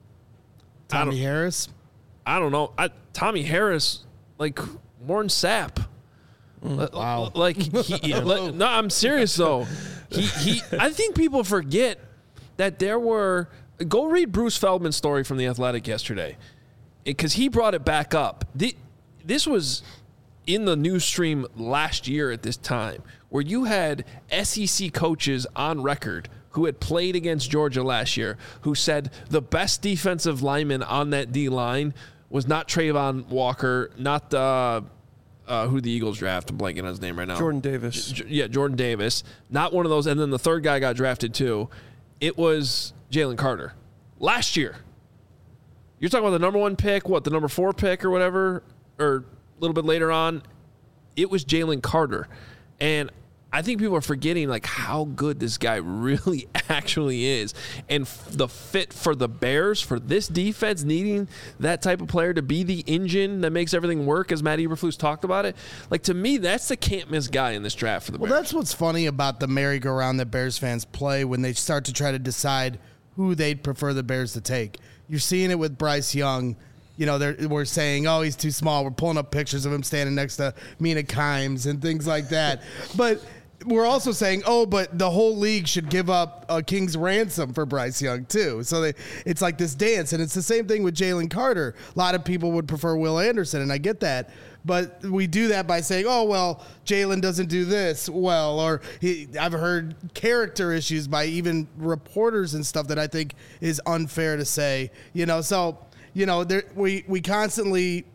Tommy I Harris? I don't know. I, Tommy Harris, like Warren Sapp. Mm, wow. Like, he, like, no, I'm serious though. He, he, I think people forget that there were – go read Bruce Feldman's story from The Athletic yesterday because he brought it back up. The, this was in the news stream last year at this time where you had S E C coaches on record who had played against Georgia last year who said the best defensive lineman on that D-line was not Trayvon Walker, not the uh, who the Eagles draft. I'm blanking on his name right now. Jordan Davis. J- yeah, Jordan Davis. Not one of those. And then the third guy got drafted too. It was Jalen Carter last year. You're talking about the number one pick, what, the number four pick or whatever, or a little bit later on. It was Jalen Carter. And I think people are forgetting like how good this guy really actually is. And f- the fit for the Bears, for this defense, needing that type of player to be the engine that makes everything work, as Matt Eberflus talked about it. Like, to me, that's the can't-miss guy in this draft for the well, Bears. Well, that's what's funny about the merry-go-round that Bears fans play when they start to try to decide who they'd prefer the Bears to take. You're seeing it with Bryce Young. You know, they're, we're saying, oh, he's too small. We're pulling up pictures of him standing next to Mina Kimes and things like that. But we're also saying, oh, but the whole league should give up a king's ransom for Bryce Young, too. So they, it's like this dance. And it's the same thing with Jalen Carter. A lot of people would prefer Will Anderson, and I get that. But we do that by saying, oh, well, Jalen doesn't do this well. Or he, I've heard character issues by even reporters and stuff that I think is unfair to say. You know, so, you know, there, we, we constantly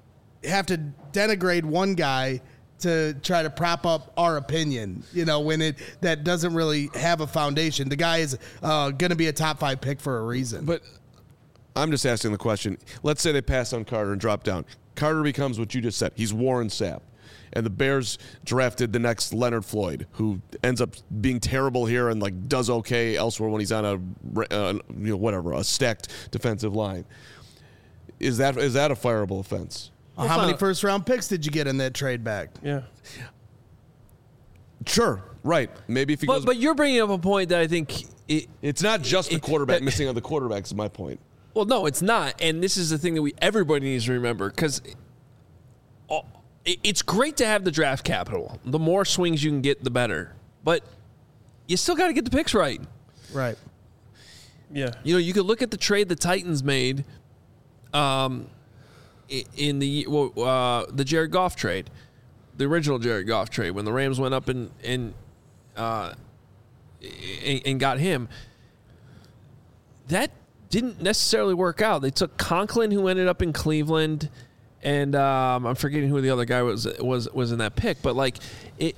have to denigrate one guy to try to prop up our opinion, you know, when it that doesn't really have a foundation. The guy is uh, going to be a top five pick for a reason. But I'm just asking the question. Let's say they pass on Carter and drop down. Carter becomes what you just said. He's Warren Sapp. And the Bears drafted the next Leonard Floyd, who ends up being terrible here and like does okay elsewhere when he's on a uh, you know whatever a stacked defensive line. Is that is that a fireable offense? Well, how many first round picks did you get in that trade back? Yeah. Sure. Right. Maybe if he but, goes. But you're bringing up a point that I think it, it's not just the it, quarterback it, missing on the quarterback is my point. Well, no, it's not, and this is the thing that we everybody needs to remember because it's great to have the draft capital. The more swings you can get, the better. But you still got to get the picks right. Right. Yeah. You know, you could look at the trade the Titans made. Um. In the uh, the Jared Goff trade, the original Jared Goff trade, when the Rams went up and and uh, and, and got him, that didn't necessarily work out. They took Conklin, who ended up in Cleveland, and um, I'm forgetting who the other guy was was was in that pick. But like it,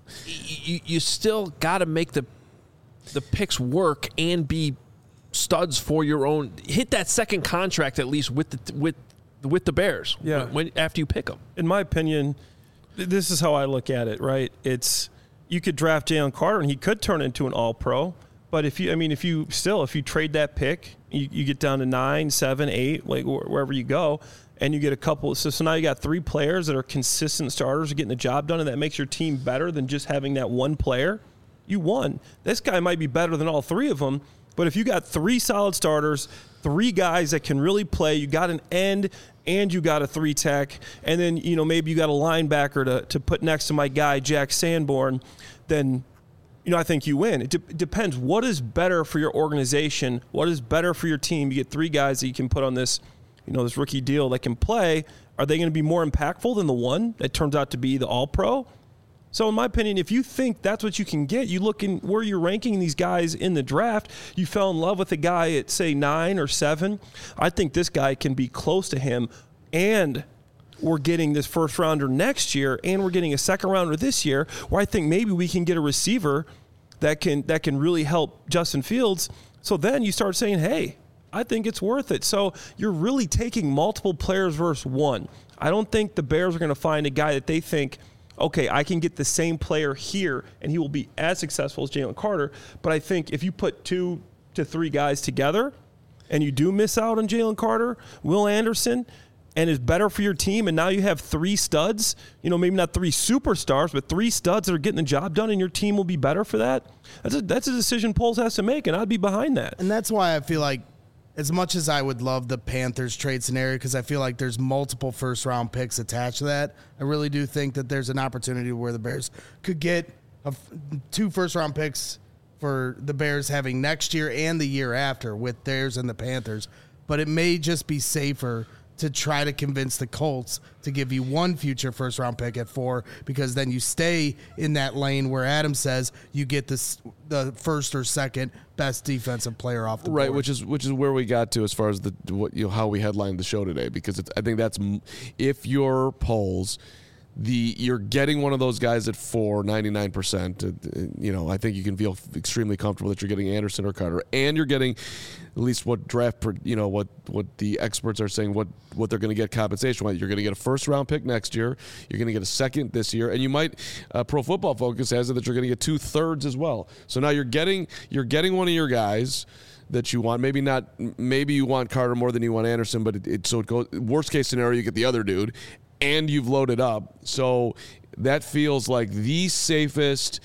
you, you still got to make the the picks work and be studs for your own. Hit that second contract at least with the with. with the Bears, yeah. When, when after you pick them. In my opinion, th- this is how I look at it. Right? It's you could draft Jalen Carter and he could turn into an All-Pro. But if you, I mean, if you still, if you trade that pick, you, you get down to nine, seven, eight, like wh- wherever you go, and you get a couple. So, so now you got three players that are consistent starters, getting the job done, and that makes your team better than just having that one player. You won. This guy might be better than all three of them. But if you got three solid starters, three guys that can really play, you got an end and you got a three tech, and then, you know, maybe you got a linebacker to, to put next to my guy, Jack Sanborn, then, you know, I think you win. It, de- it depends. What is better for your organization? What is better for your team? You get three guys that you can put on this, you know, this rookie deal that can play. Are they going to be more impactful than the one that turns out to be the All-Pro? So in my opinion, if you think that's what you can get, you look in where you're ranking these guys in the draft, you fell in love with a guy at, say, nine or seven. I think this guy can be close to him, and we're getting this first rounder next year, and we're getting a second rounder this year, where I think maybe we can get a receiver that can that can really help Justin Fields. So then you start saying, hey, I think it's worth it. So you're really taking multiple players versus one. I don't think the Bears are going to find a guy that they think, okay, I can get the same player here, and he will be as successful as Jalen Carter. But I think if you put two to three guys together and you do miss out on Jalen Carter, Will Anderson, and is better for your team, and now you have three studs, you know, maybe not three superstars, but three studs that are getting the job done, and your team will be better for that, that's a, that's a decision Poles has to make, and I'd be behind that. And that's why I feel like, as much as I would love the Panthers trade scenario, because I feel like there's multiple first-round picks attached to that, I really do think that there's an opportunity where the Bears could get a, two first-round picks for the Bears having next year and the year after with theirs and the Panthers. But it may just be safer to try to convince the Colts to give you one future first-round pick at four, because then you stay in that lane where Adam says you get this the first or second best defensive player off the right, board. which is which is where we got to as far as the what you know, how we headlined the show today, because it's, I think that's if your polls. The you're getting one of those guys at four, ninety-nine percent. Uh, you know, I think you can feel extremely comfortable that you're getting Anderson or Carter, and you're getting at least what draft, you know, what what the experts are saying, what what they're going to get compensation wise. You're going to get a first round pick next year. You're going to get a second this year, and you might. Uh, Pro Football Focus has it that you're going to get two thirds as well. So now you're getting you're getting one of your guys that you want. Maybe not. Maybe you want Carter more than you want Anderson, but it, it so it goes. Worst case scenario, you get the other dude. And you've loaded up. So that feels like the safest.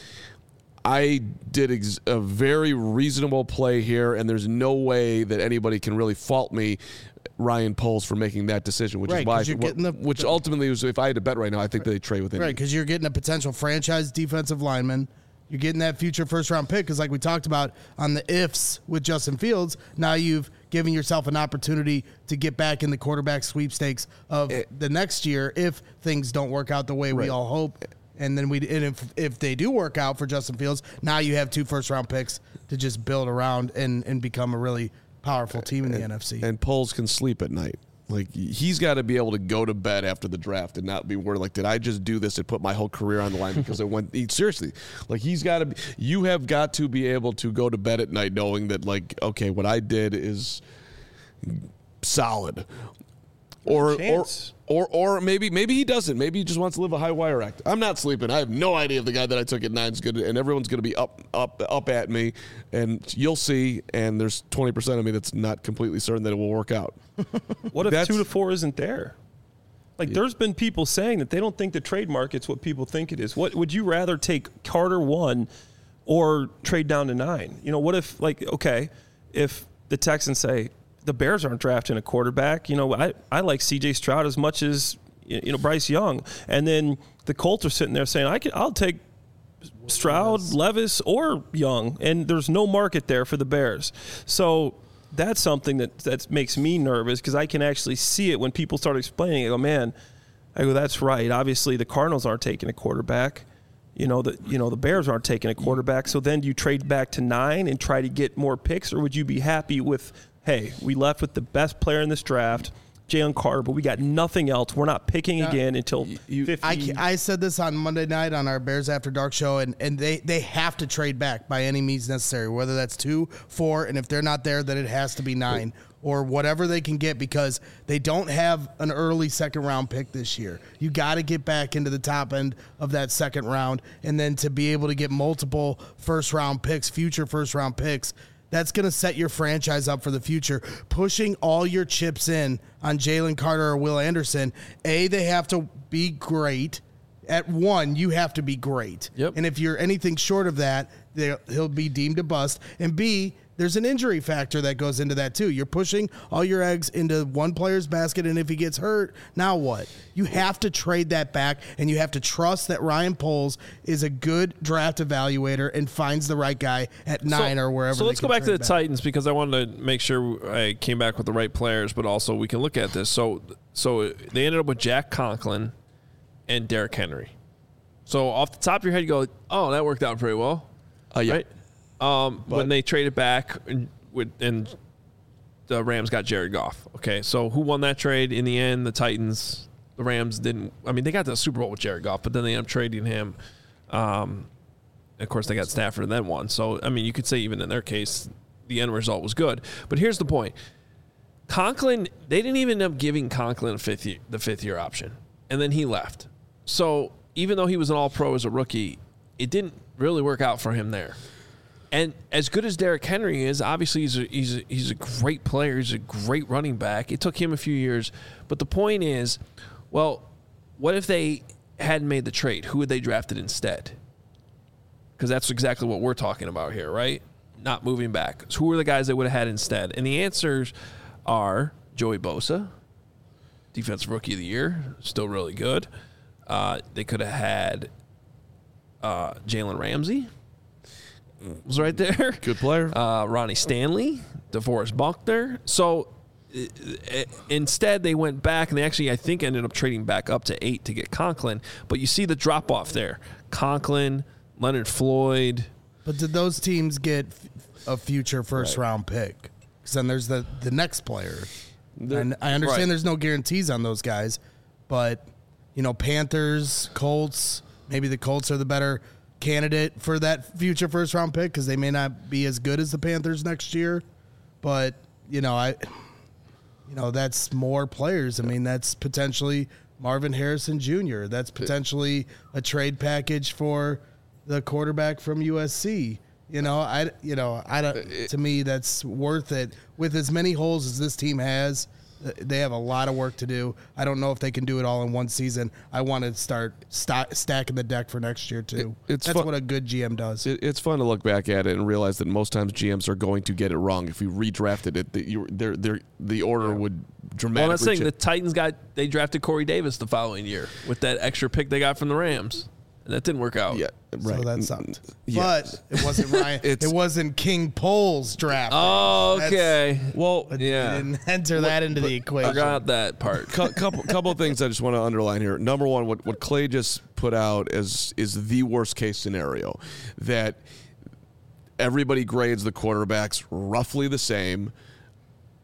I did ex- a very reasonable play here, and there's no way that anybody can really fault me, Ryan Poles, for making that decision, which right, is why, you're getting the, which the, ultimately was, if I had to bet right now, I think they trade with him. Right, because you're getting a potential franchise defensive lineman. You're getting that future first-round pick because, like we talked about on the ifs with Justin Fields, now you've given yourself an opportunity to get back in the quarterback sweepstakes of it, the next year if things don't work out the way right. we all hope. And then we, and if if they do work out for Justin Fields, now you have two first-round picks to just build around and, and become a really powerful team in the and, N F C. And Poles can sleep at night. Like, he's got to be able to go to bed after the draft and not be worried, like, did I just do this and put my whole career on the line because I went – seriously. Like, he's got to be – you have got to be able to go to bed at night knowing that, like, okay, what I did is solid. Or, or or or maybe maybe he doesn't. Maybe he just wants to live a high wire act. I'm not sleeping. I have no idea if the guy that I took at nine is good, and everyone's going to be up up up at me, and you'll see. And there's twenty percent of me that's not completely certain that it will work out. What if That's- two to four isn't there? Like, yeah. There's been people saying that they don't think the trade market's what people think it is. What would you rather take Carter one or trade down to nine? You know, what if, like, okay, if the Texans say, the Bears aren't drafting a quarterback. You know, I, I like C J Stroud as much as, you know, Bryce Young. And then the Colts are sitting there saying, I can, I'll take Stroud, Levis, or Young. And there's no market there for the Bears. So that's something that, that makes me nervous because I can actually see it when people start explaining it. I go, man, I go, that's right. Obviously, the Cardinals aren't taking a quarterback. You know, the, you know, the Bears aren't taking a quarterback. So then do you trade back to nine and try to get more picks, or would you be happy with – hey, we left with the best player in this draft, Jalen Carter, but we got nothing else. We're not picking yeah. again until you, fifty. I, I said this on Monday night on our Bears After Dark show, and, and they, they have to trade back by any means necessary, whether that's two, four, and if they're not there, then it has to be nine or whatever they can get because they don't have an early second-round pick this year. You got to get back into the top end of that second round, and then to be able to get multiple first-round picks, future first-round picks, that's going to set your franchise up for the future. Pushing all your chips in on Jalen Carter or Will Anderson, A, they have to be great. At one, you have to be great. Yep. And if you're anything short of that, he'll be deemed a bust. And B, there's an injury factor that goes into that too. You're pushing all your eggs into one player's basket, and if he gets hurt, now what? You have to trade that back, and you have to trust that Ryan Poles is a good draft evaluator and finds the right guy at nine so, or wherever. So let's go back to the back. Titans because I wanted to make sure I came back with the right players, but also we can look at this. So, so they ended up with Jack Conklin and Derrick Henry. So off the top of your head, you go, "Oh, that worked out pretty well." Uh, yeah. Right? Um, when they traded back and, with, and the Rams got Jared Goff. Okay, so who won that trade in the end? The Titans. The Rams didn't. I mean, they got to the Super Bowl with Jared Goff, but then they ended up trading him. Um, of course, they got Stafford and then won. So, I mean, you could say even in their case, the end result was good. But here's the point. Conklin, they didn't even end up giving Conklin a fifth year, the fifth-year option, and then he left. So even though he was an all-pro as a rookie, it didn't really work out for him there. And as good as Derrick Henry is, obviously he's a, he's a, he's a great player. He's a great running back. It took him a few years. But the point is, well, what if they hadn't made the trade? Who would they drafted instead? Because that's exactly what we're talking about here, right? Not moving back. So who are the guys they would have had instead? And the answers are Joey Bosa, Defensive Rookie of the Year, still really good. Uh, they could have had uh, Jalen Ramsey. Was right there. Good player. Uh, Ronnie Stanley, DeForest Buckner. So uh, instead, they went back, and they actually, I think, ended up trading back up to eight to get Conklin. But you see the drop-off there. Conklin, Leonard Floyd. But did those teams get a future first-round right. pick? Because then there's the, the next player. They're, and I understand right. there's no guarantees on those guys. But, you know, Panthers, Colts, maybe the Colts are the better – candidate for that future first round pick because they may not be as good as the Panthers next year, but you know, I, you know, that's more players. I mean, that's potentially Marvin Harrison Junior That's potentially a trade package for the quarterback from U S C. You know, I, you know, I don't. To me, that's worth it. With as many holes as this team has, they have a lot of work to do. I don't know if they can do it all in one season. I want to start st- stacking the deck for next year, too. It, it's That's fun. What a good G M does. It, it's fun to look back at it and realize that most times G Ms are going to get it wrong. If we redrafted it, the, you, they're, they're, the order yeah. would dramatically Well, I'm saying change. the Titans got – they drafted Corey Davis the following year with that extra pick they got from the Rams. And that didn't work out. Yeah, right. So that sucked. Yeah. But it wasn't Ryan. it wasn't King Poles draft. Oh, okay. That's, well, yeah. Didn't enter that into the equation. Forgot that part. couple couple of things I just want to underline here. Number one, what, what Clay just put out as is the worst case scenario, that everybody grades the quarterbacks roughly the same.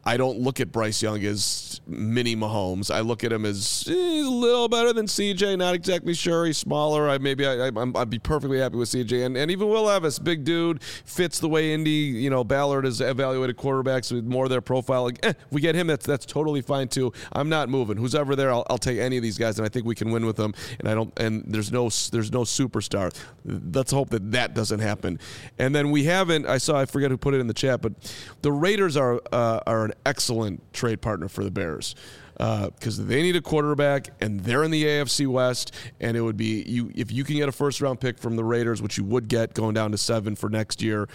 I don't look at Bryce Young as mini Mahomes. I look at him as eh, he's a little better than C J. Not exactly sure. He's smaller. I maybe I, I, I'd be perfectly happy with C J. And, and even Will Levis, big dude, fits the way Indy, you know, Ballard has evaluated quarterbacks with more of their profile. Like, eh, we get him. That's that's totally fine too. I'm not moving. Who's ever there, I'll, I'll take any of these guys, and I think we can win with them. And I don't. And there's no there's no superstar. Let's hope that that doesn't happen. And then we haven't. I saw. I forget who put it in the chat, but the Raiders are uh, are an excellent trade partner for the Bears because uh, they need a quarterback and they're in the A F C West, and it would be you if you can get a first round pick from the Raiders, which you would get going down to seven for next year.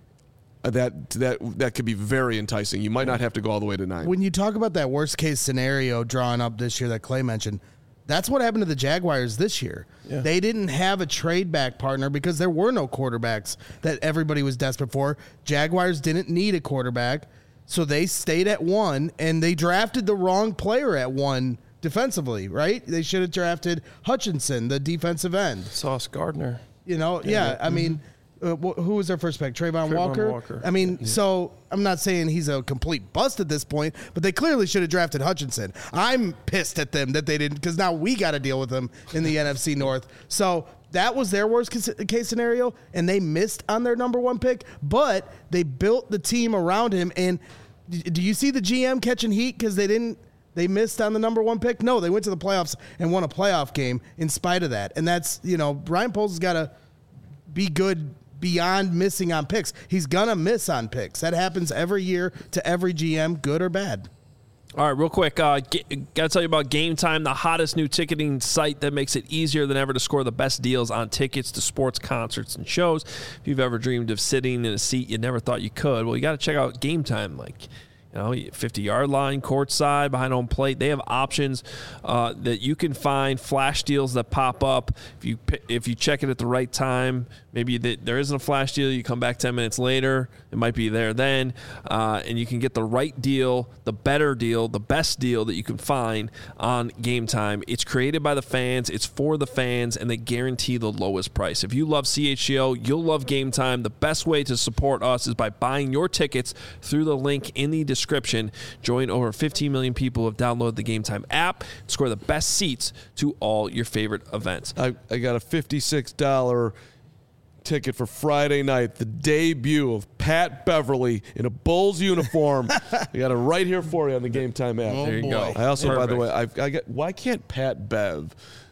Uh, that that that could be very enticing. You might not have to go all the way to nine. When you talk about that worst case scenario drawn up this year that Clay mentioned, that's what happened to the Jaguars this year. Yeah. They didn't have a trade back partner because there were no quarterbacks that everybody was desperate for. Jaguars didn't need a quarterback. So they stayed at one, and they drafted the wrong player at one defensively, right? They should have drafted Hutchinson, the defensive end. Sauce Gardner. You know, yeah, yeah. I mm-hmm. mean, uh, wh- who was their first pick? Trayvon, Trayvon Walker? Walker. I mean, yeah. so I'm not saying he's a complete bust at this point, but they clearly should have drafted Hutchinson. I'm pissed at them that they didn't, because now we got to deal with them in the N F C North. So that was their worst case scenario, and they missed on their number one pick, but they built the team around him. And do you see the G M catching heat because they didn't they missed on the number one pick? No, they went to the playoffs and won a playoff game in spite of that. And that's, you know, Ryan Poles has got to be good beyond missing on picks. He's gonna miss on picks. That happens every year to every G M, good or bad. All right, real quick, uh, got to tell you about Game Time, the hottest new ticketing site that makes it easier than ever to score the best deals on tickets to sports, concerts, and shows. If you've ever dreamed of sitting in a seat you never thought you could, well, you got to check out Game Time. Like, you know, fifty-yard line, courtside, behind home plate. They have options uh, that you can find, flash deals that pop up. If you if you check it at the right time, maybe there isn't a flash deal, you come back ten minutes later, it might be there then, uh, and you can get the right deal, the better deal, the best deal that you can find on Game Time. It's created by the fans, it's for the fans, and they guarantee the lowest price. If you love C H G O, you'll love Game Time. The best way to support us is by buying your tickets through the link in the description. Join over fifteen million people who have downloaded the Game Time app and score the best seats to all your favorite events. I, I got a fifty-six dollars ticket for Friday night, the debut of Pat Beverly in a Bulls uniform. I got it right here for you on the Game Time app. Oh, there you boy. go. I also, Perfect. by the way, I've, I got. Why can't Pat Bev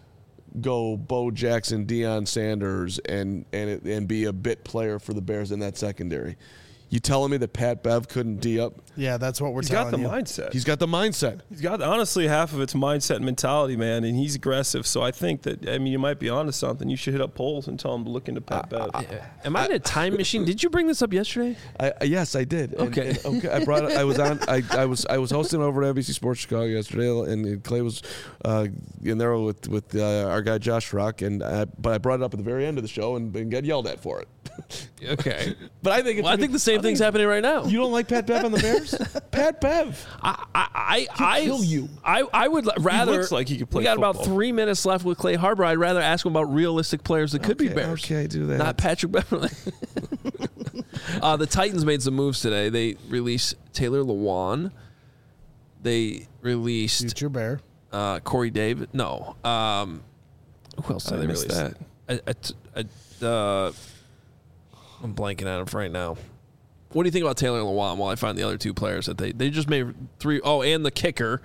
go Bo Jackson, Deion Sanders, and and and be a bit player for the Bears in that secondary? You telling me that Pat Bev couldn't D up? Yeah, that's what we're He's telling got the you. mindset. He's got the mindset. He's got, honestly, half of it's mindset and mentality, man, and he's aggressive. So I think that, I mean, you might be onto something. You should hit up Poles and tell him to look into Pat Bev. Yeah. Am I in a time machine? Did you bring this up yesterday? I, I, yes, I did. And- Okay. and, okay. I brought. It, I was on. I, I was. I was hosting over at N B C Sports Chicago yesterday, and, and Clay was uh, in there with with uh, our guy Josh Rock, and I, but I brought it up at the very end of the show and, and got yelled at for it. Okay. But I think it's Well, I think the same thing's happening right now. You don't like Pat Bev on the Bears? Pat Bev. I, I, I, kill you. I, I would rather. looks like he could play We got about football. three minutes left with Clay Harbor. I'd rather ask him about realistic players that could be Okay, Bears. okay, do that. Not Patrick Beverly. uh, the Titans made some moves today. They released Taylor Lewan. They released Future Bear. uh, Corey Davis. No. Um, who else did I they missed release? that. A, a, a, uh, I'm blanking on him right now. What do you think about Taylor Lewan while I find the other two players that they, they just made three? Oh, and the kicker.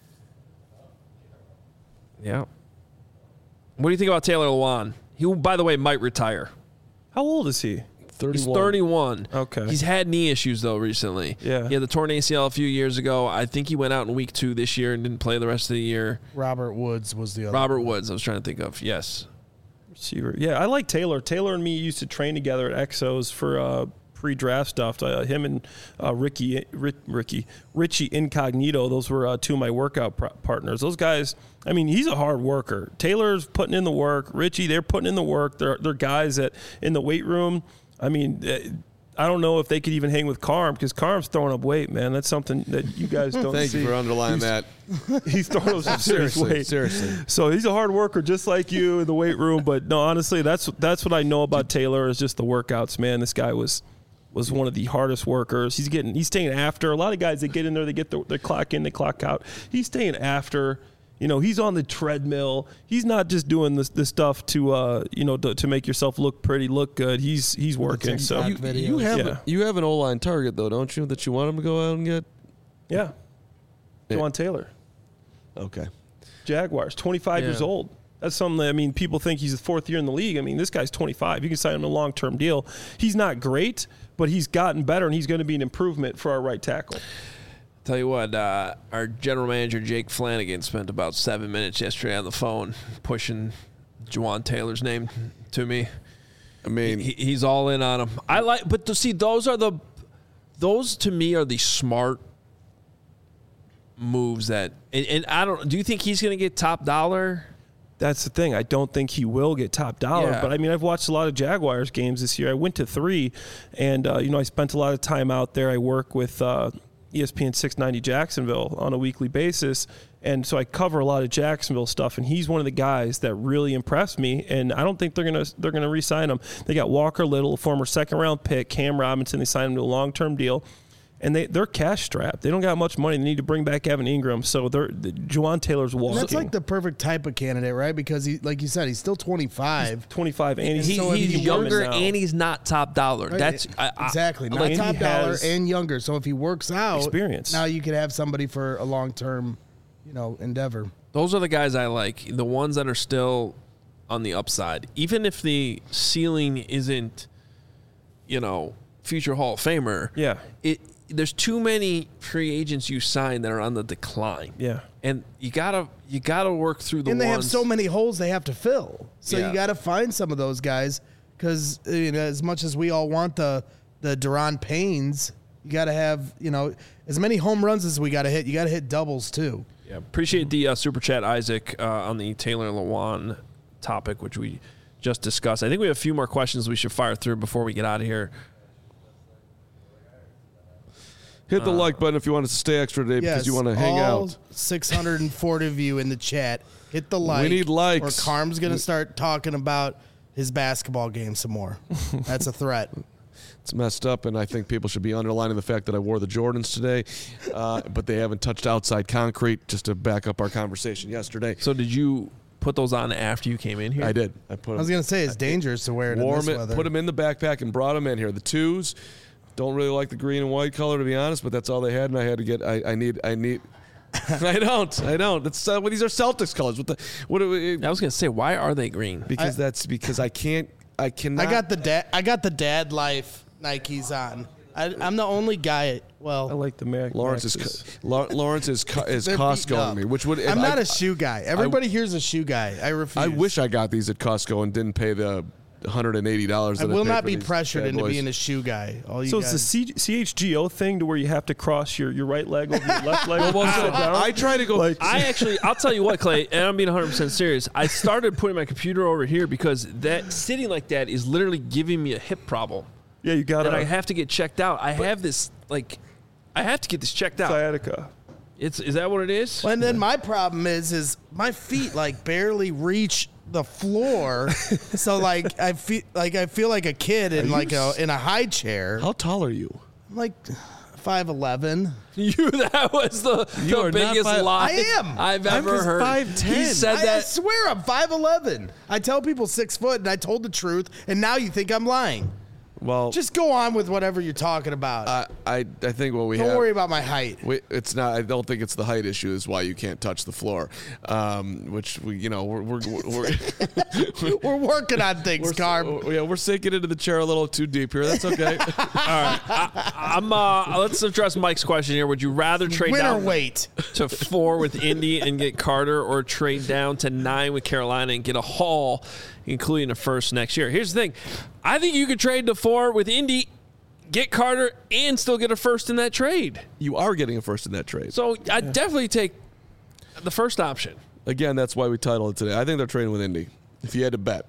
Yeah. What do you think about Taylor Lewan? He, by the way, might retire. How old is he? thirty-one. He's thirty-one. Okay. He's had knee issues, though, recently. Yeah. He had the torn A C L a few years ago. I think he went out in week two this year and didn't play the rest of the year. Robert Woods was the other. Robert Woods, I was trying to think of. Yes. Receiver. Yeah, I like Taylor. Taylor and me used to train together at Exos for uh, pre-draft stuff. Uh, him and uh, Ricky, Rick, Ricky, Richie Incognito. Those were uh, two of my workout pr- partners. Those guys. I mean, he's a hard worker. Taylor's putting in the work. Richie, they're putting in the work. They're they're guys that in the weight room. I mean, I don't know if they could even hang with Carm because Carm's throwing up weight, man. That's something that you guys don't Thank see. you for underlining he's, that. He's throwing up some serious Seriously, weight. seriously. So he's a hard worker, just like you in the weight room. But no, honestly, that's that's what I know about Taylor is just the workouts, man. This guy was was one of the hardest workers. He's getting he's staying after. A lot of guys, they get in there, they get the, their clock in, they clock out. He's staying after. You know, he's on the treadmill. He's not just doing this this stuff to uh, you know, to, to make yourself look pretty, look good. He's he's working. So you, you have yeah. you have an O-line target though, don't you? That you want him to go out and get. Yeah, Juwan Taylor. Okay. Jaguars, twenty-five Yeah. years old. That's something that, I mean, people think he's the fourth year in the league. I mean, this guy's twenty-five. You can sign him to a long-term deal. He's not great, but he's gotten better, and he's going to be an improvement for our right tackle. Tell you what, uh, our general manager, Jake Flanagan, spent about seven minutes yesterday on the phone pushing Juwan Taylor's name to me. I mean, he, he's all in on him. I like, but to see, those are the, those to me are the smart moves that, and, and I don't, do you think he's going to get top dollar? That's the thing. I don't think he will get top dollar. Yeah. But, I mean, I've watched a lot of Jaguars games this year. I went to three, and, uh, you know, I spent a lot of time out there. I work with uh, E S P N six ninety Jacksonville on a weekly basis, and so I cover a lot of Jacksonville stuff, and he's one of the guys that really impressed me, and I don't think they're going to they're gonna re-sign him. They got Walker Little, former second-round pick, Cam Robinson. They signed him to a long-term deal. And they, they're cash strapped. They don't got much money. They need to bring back Evan Ingram. So they're the, Juwan Taylor's walking. And that's like the perfect type of candidate, right? Because he, like you said, he's still twenty-five. He's twenty-five, and He, he's, so he's he younger now. and he's not top dollar. Right. That's I, I, Exactly. I Not like- top he dollar has and younger. So if he works out, experience. now you could have somebody for a long-term, you know, endeavor. Those are the guys I like. The ones that are still on the upside, even if the ceiling isn't, you know, future Hall of Famer. Yeah. It. There's too many free agents you sign that are on the decline. Yeah. And you gotta you gotta work through the And they have ones. so many holes they have to fill. So Yeah. you got to find some of those guys because, you know, as much as we all want the the Daron Paynes, you got to have, you know, as many home runs as we got to hit. You got to hit doubles too. Yeah, appreciate the uh, super chat, Isaac, uh, on the Taylor Lewan topic, which we just discussed. I think we have a few more questions we should fire through before we get out of here. hit the uh, like button if you want us to stay extra today Yes, because you want to hang all out. six hundred forty of you in the chat, hit the like. We need likes. Or Carm's going to start talking about his basketball game some more. That's a threat. It's messed up, and I think people should be underlining the fact that I wore the Jordans today, uh, but they haven't touched outside concrete, just to back up our conversation yesterday. So did you put those on after you came in here? I did. I put. I was going to say it's dangerous to wear it in Warm this it, weather. put them in the backpack, and brought them in here. The twos. Don't really like the green and white color, to be honest, but that's all they had, and I had to get. I, I need. I need. I don't. I don't. It's uh, well, these are Celtics colors. What the? What? Are we, I was going to say, why are they green? because I- that's because I can't. I cannot. I got the dad. I got the dad life Nikes on. I, I'm the only guy. Well, I like the Mac. Lawrence is Maxes. La- Lawrence is co- is They're Costco beaten on up. me, which would. I'm I, not a shoe guy. Everybody here's a shoe guy. I refuse. I wish I got these at Costco and didn't pay the one hundred eighty dollars. I will not be pressured into being a shoe guy. All you So guys. it's the C- C H G O thing to where you have to cross your, your right leg over your left leg. Well, Sit so down? I try to go. Like- I actually, I'll tell you what, Clay, and I'm being one hundred percent serious. I started putting my computer over here because that sitting like that is literally giving me a hip problem. Yeah, you got And I to have to get checked out. I have this, like, I have to get this checked out. sciatica. It's Is that what it is? and then my problem is, is my feet like barely reach the floor. So like I feel like I feel like a kid in you like a s- in a high chair. How tall are you? I'm like five eleven. You, that was the, You the are not biggest five- lie I am. I've I'm ever just heard. five ten. He said I, I that. swear I'm five eleven. I tell people six foot, and I told the truth, and now you think I'm lying. Well, Just go on with whatever you're talking about. I I, I think what we Don't have. worry about my height. We, it's not. I don't think it's the height issue. Is why you can't touch the floor. Um, which we, you know, we're we're we're, we're, We're working on things, we're Carm. yeah, we're sinking into the chair a little too deep here. That's okay. I'm. Uh, let's address Mike's question here. Would you rather trade Winter down weight. to four with Indy and get Carter, or trade down to nine with Carolina and get a haul, including a first next year? Here's the thing. I think you could trade to four with Indy, get Carter, and still get a first in that trade. You are getting a first in that trade. So I'd definitely take the first option. Again, that's why we titled it today. I think they're trading with Indy. If you had to bet,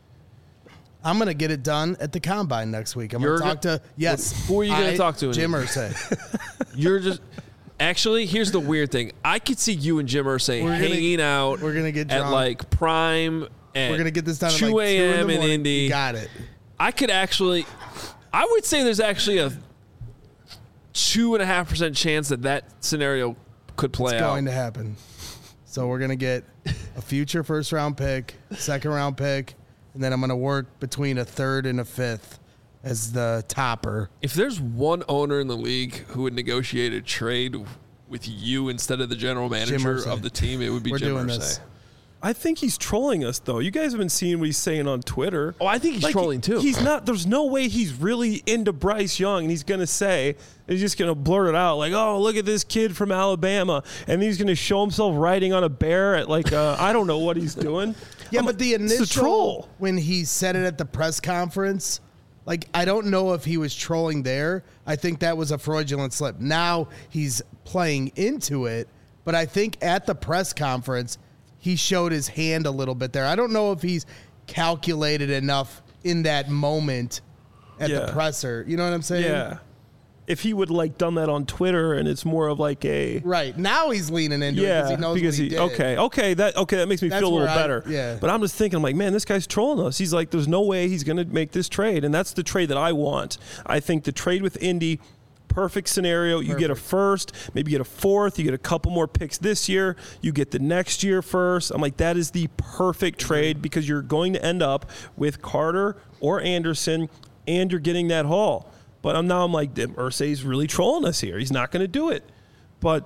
I'm gonna get it done at the combine next week. I'm You're gonna talk to yes. Who are you gonna I- talk to in Jim it? Irsay. You're just. Actually, here's the weird thing. I could see you and Jim Irsay We're gonna- hanging out. we're gonna get at drunk. like prime. At We're gonna get this done at two like two in a.m. the in morning. Indy. You got it. I could actually. I would say there's actually a two and a half percent chance that that scenario could play It's out. going to happen. So we're going to get a future first round pick, second round pick, and then I'm going to work between a third and a fifth as the topper. If there's one owner in the league who would negotiate a trade with you instead of the general manager Irsay. of the team, it would be We're Jim doing Irsay. this. I think he's trolling us, though. You guys have been seeing what he's saying on Twitter. Oh, I think he's Like, trolling too. He's not. There's no way he's really into Bryce Young, and he's going to say, he's just going to blurt it out like, "Oh, look at this kid from Alabama," and he's going to show himself riding on a bear at like uh, I don't know what he's doing. Yeah, I'm but like, the it's a initial troll. when he said it at the press conference, like I don't know if he was trolling there. I think that was a fraudulent slip. Now he's playing into it, but I think at the press conference he showed his hand a little bit there. I don't know if he's calculated enough in that moment at Yeah. the presser. You know what I'm saying? Yeah. If he would like done that on Twitter, and it's more of like a Right. Now he's leaning into yeah, it because he knows because what he, he, did. okay, okay, that okay, that makes me That's feel a little where I- better. yeah. But I'm just thinking, I'm like, man, this guy's trolling us. He's like, there's no way he's going to make this trade, and that's the trade that I want. I think the trade with Indy, perfect scenario. You get a first, maybe get a fourth. You get a couple more picks this year. You get the next year first. I'm like, that is the perfect trade because you're going to end up with Carter or Anderson, and you're getting that haul. But I'm now I'm like, Irsay's really trolling us here. He's not going to do it. But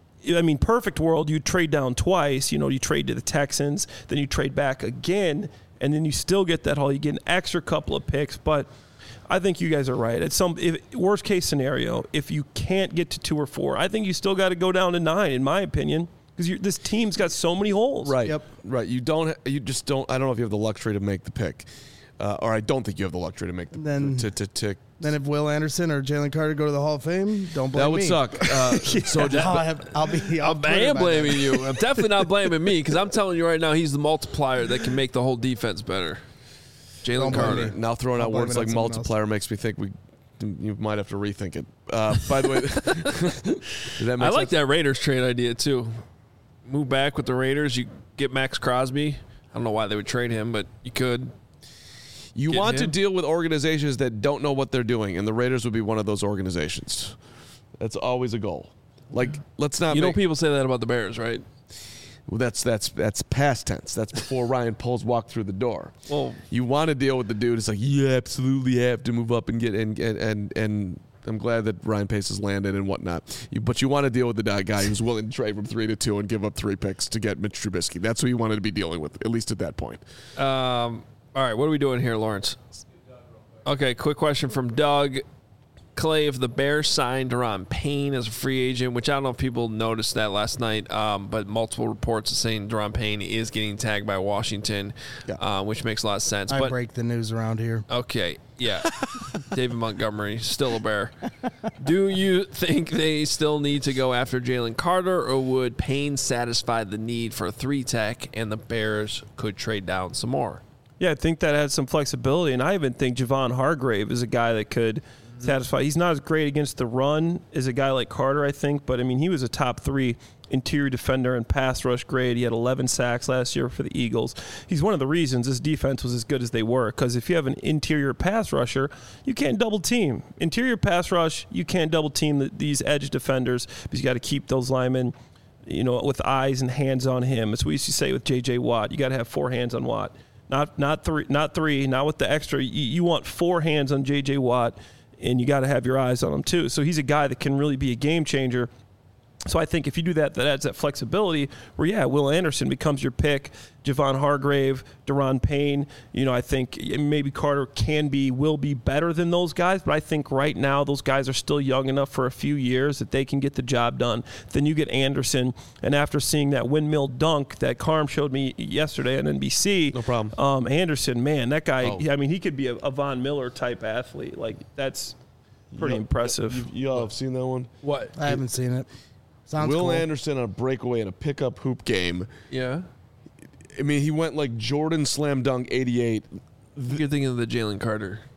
I mean, perfect world, you trade down twice. You know, you trade to the Texans, then you trade back again, and then you still get that haul. You get an extra couple of picks, but I think you guys are right. At some if, worst case scenario, if you can't get to two or four, I think you still got to go down to nine, in my opinion, because this team's got so many holes. Right. Yep. Right. You don't. You just don't. I don't know if you have the luxury to make the pick, uh, or I don't think you have the luxury to make the Then- to to. to Then if Will Anderson or Jalen Carter go to the Hall of Fame, don't blame that would me. suck. Uh, So just, I'll, have, I'll be. I'm, off I Twitter am by then. blaming you. I'm definitely not blaming me because I'm telling you right now, he's the multiplier that can make the whole defense better. Jalen Don't blame Carter. me. now throwing I'll out blame words it on like someone else. multiplier makes me think we. You might have to rethink it. Uh, by the way, does that make I like sense? that Raiders trade idea too. Move back with the Raiders. You get Max Crosby. I don't know why they would trade him, but you could. You Get want to him? deal with organizations that don't know what they're doing, and the Raiders would be one of those organizations. That's always a goal. Like, let's not. You know, make, people say that about the Bears, right? well, that's that's that's past tense. That's before Ryan Poles walked through the door. Well, You want to deal with the dude. It's like you absolutely have to move up and get and and and. and I'm glad that Ryan Pace has landed and whatnot. You, but you want to deal with the guy who's willing to trade from three to two and give up three picks to get Mitch Trubisky. That's who you wanted to be dealing with, at least at that point. Um, all right, what are we doing here, Lawrence? Okay, quick question from Doug. Clay, if the Bears signed Daron Payne as a free agent, which I don't know if people noticed that last night, um, but multiple reports are saying Daron Payne is getting tagged by Washington, Yeah. uh, which makes a lot of sense. I but break the news around here. okay, yeah, David Montgomery, still a Bear. Do you think they still need to go after Jalen Carter, or would Payne satisfy the need for a three tech, and the Bears could trade down some more? Yeah, I think that adds some flexibility, and I even think Javon Hargrave is a guy that could satisfy. He's not as great against the run as a guy like Carter, I think, but I mean, he was a top three interior defender and pass rush grade. He had eleven sacks last year for the Eagles. He's one of the reasons this defense was as good as they were, because if you have an interior pass rusher, you can't double team. Interior pass rush, you can't double team the, these edge defenders because you got to keep those linemen, you know, with eyes and hands on him. It's what we used to say with J J Watt. You got to have four hands on Watt. Not not three, not three, not with the extra. You, you want four hands on J J Watt, and you got to have your eyes on him too. So he's a guy that can really be a game changer. So I think if you do that, that adds that flexibility where, yeah, Will Anderson becomes your pick, Javon Hargrave, Daron Payne. You know, I think maybe Carter can be, will be better than those guys, but I think right now those guys are still young enough for a few years that they can get the job done. Then you get Anderson, and after seeing that windmill dunk that Carm showed me yesterday on N B C, No problem. Um, Anderson, man, that guy, Oh. I mean, he could be a, a Von Miller type athlete. Like, that's pretty You- impressive. You, you all have seen that one? What? I haven't seen it. Sounds Will cool. Anderson on a breakaway in a pickup hoop game. Yeah. I mean, he went like Jordan slam dunk eighty-eight. You're thinking of the Jalen Carter.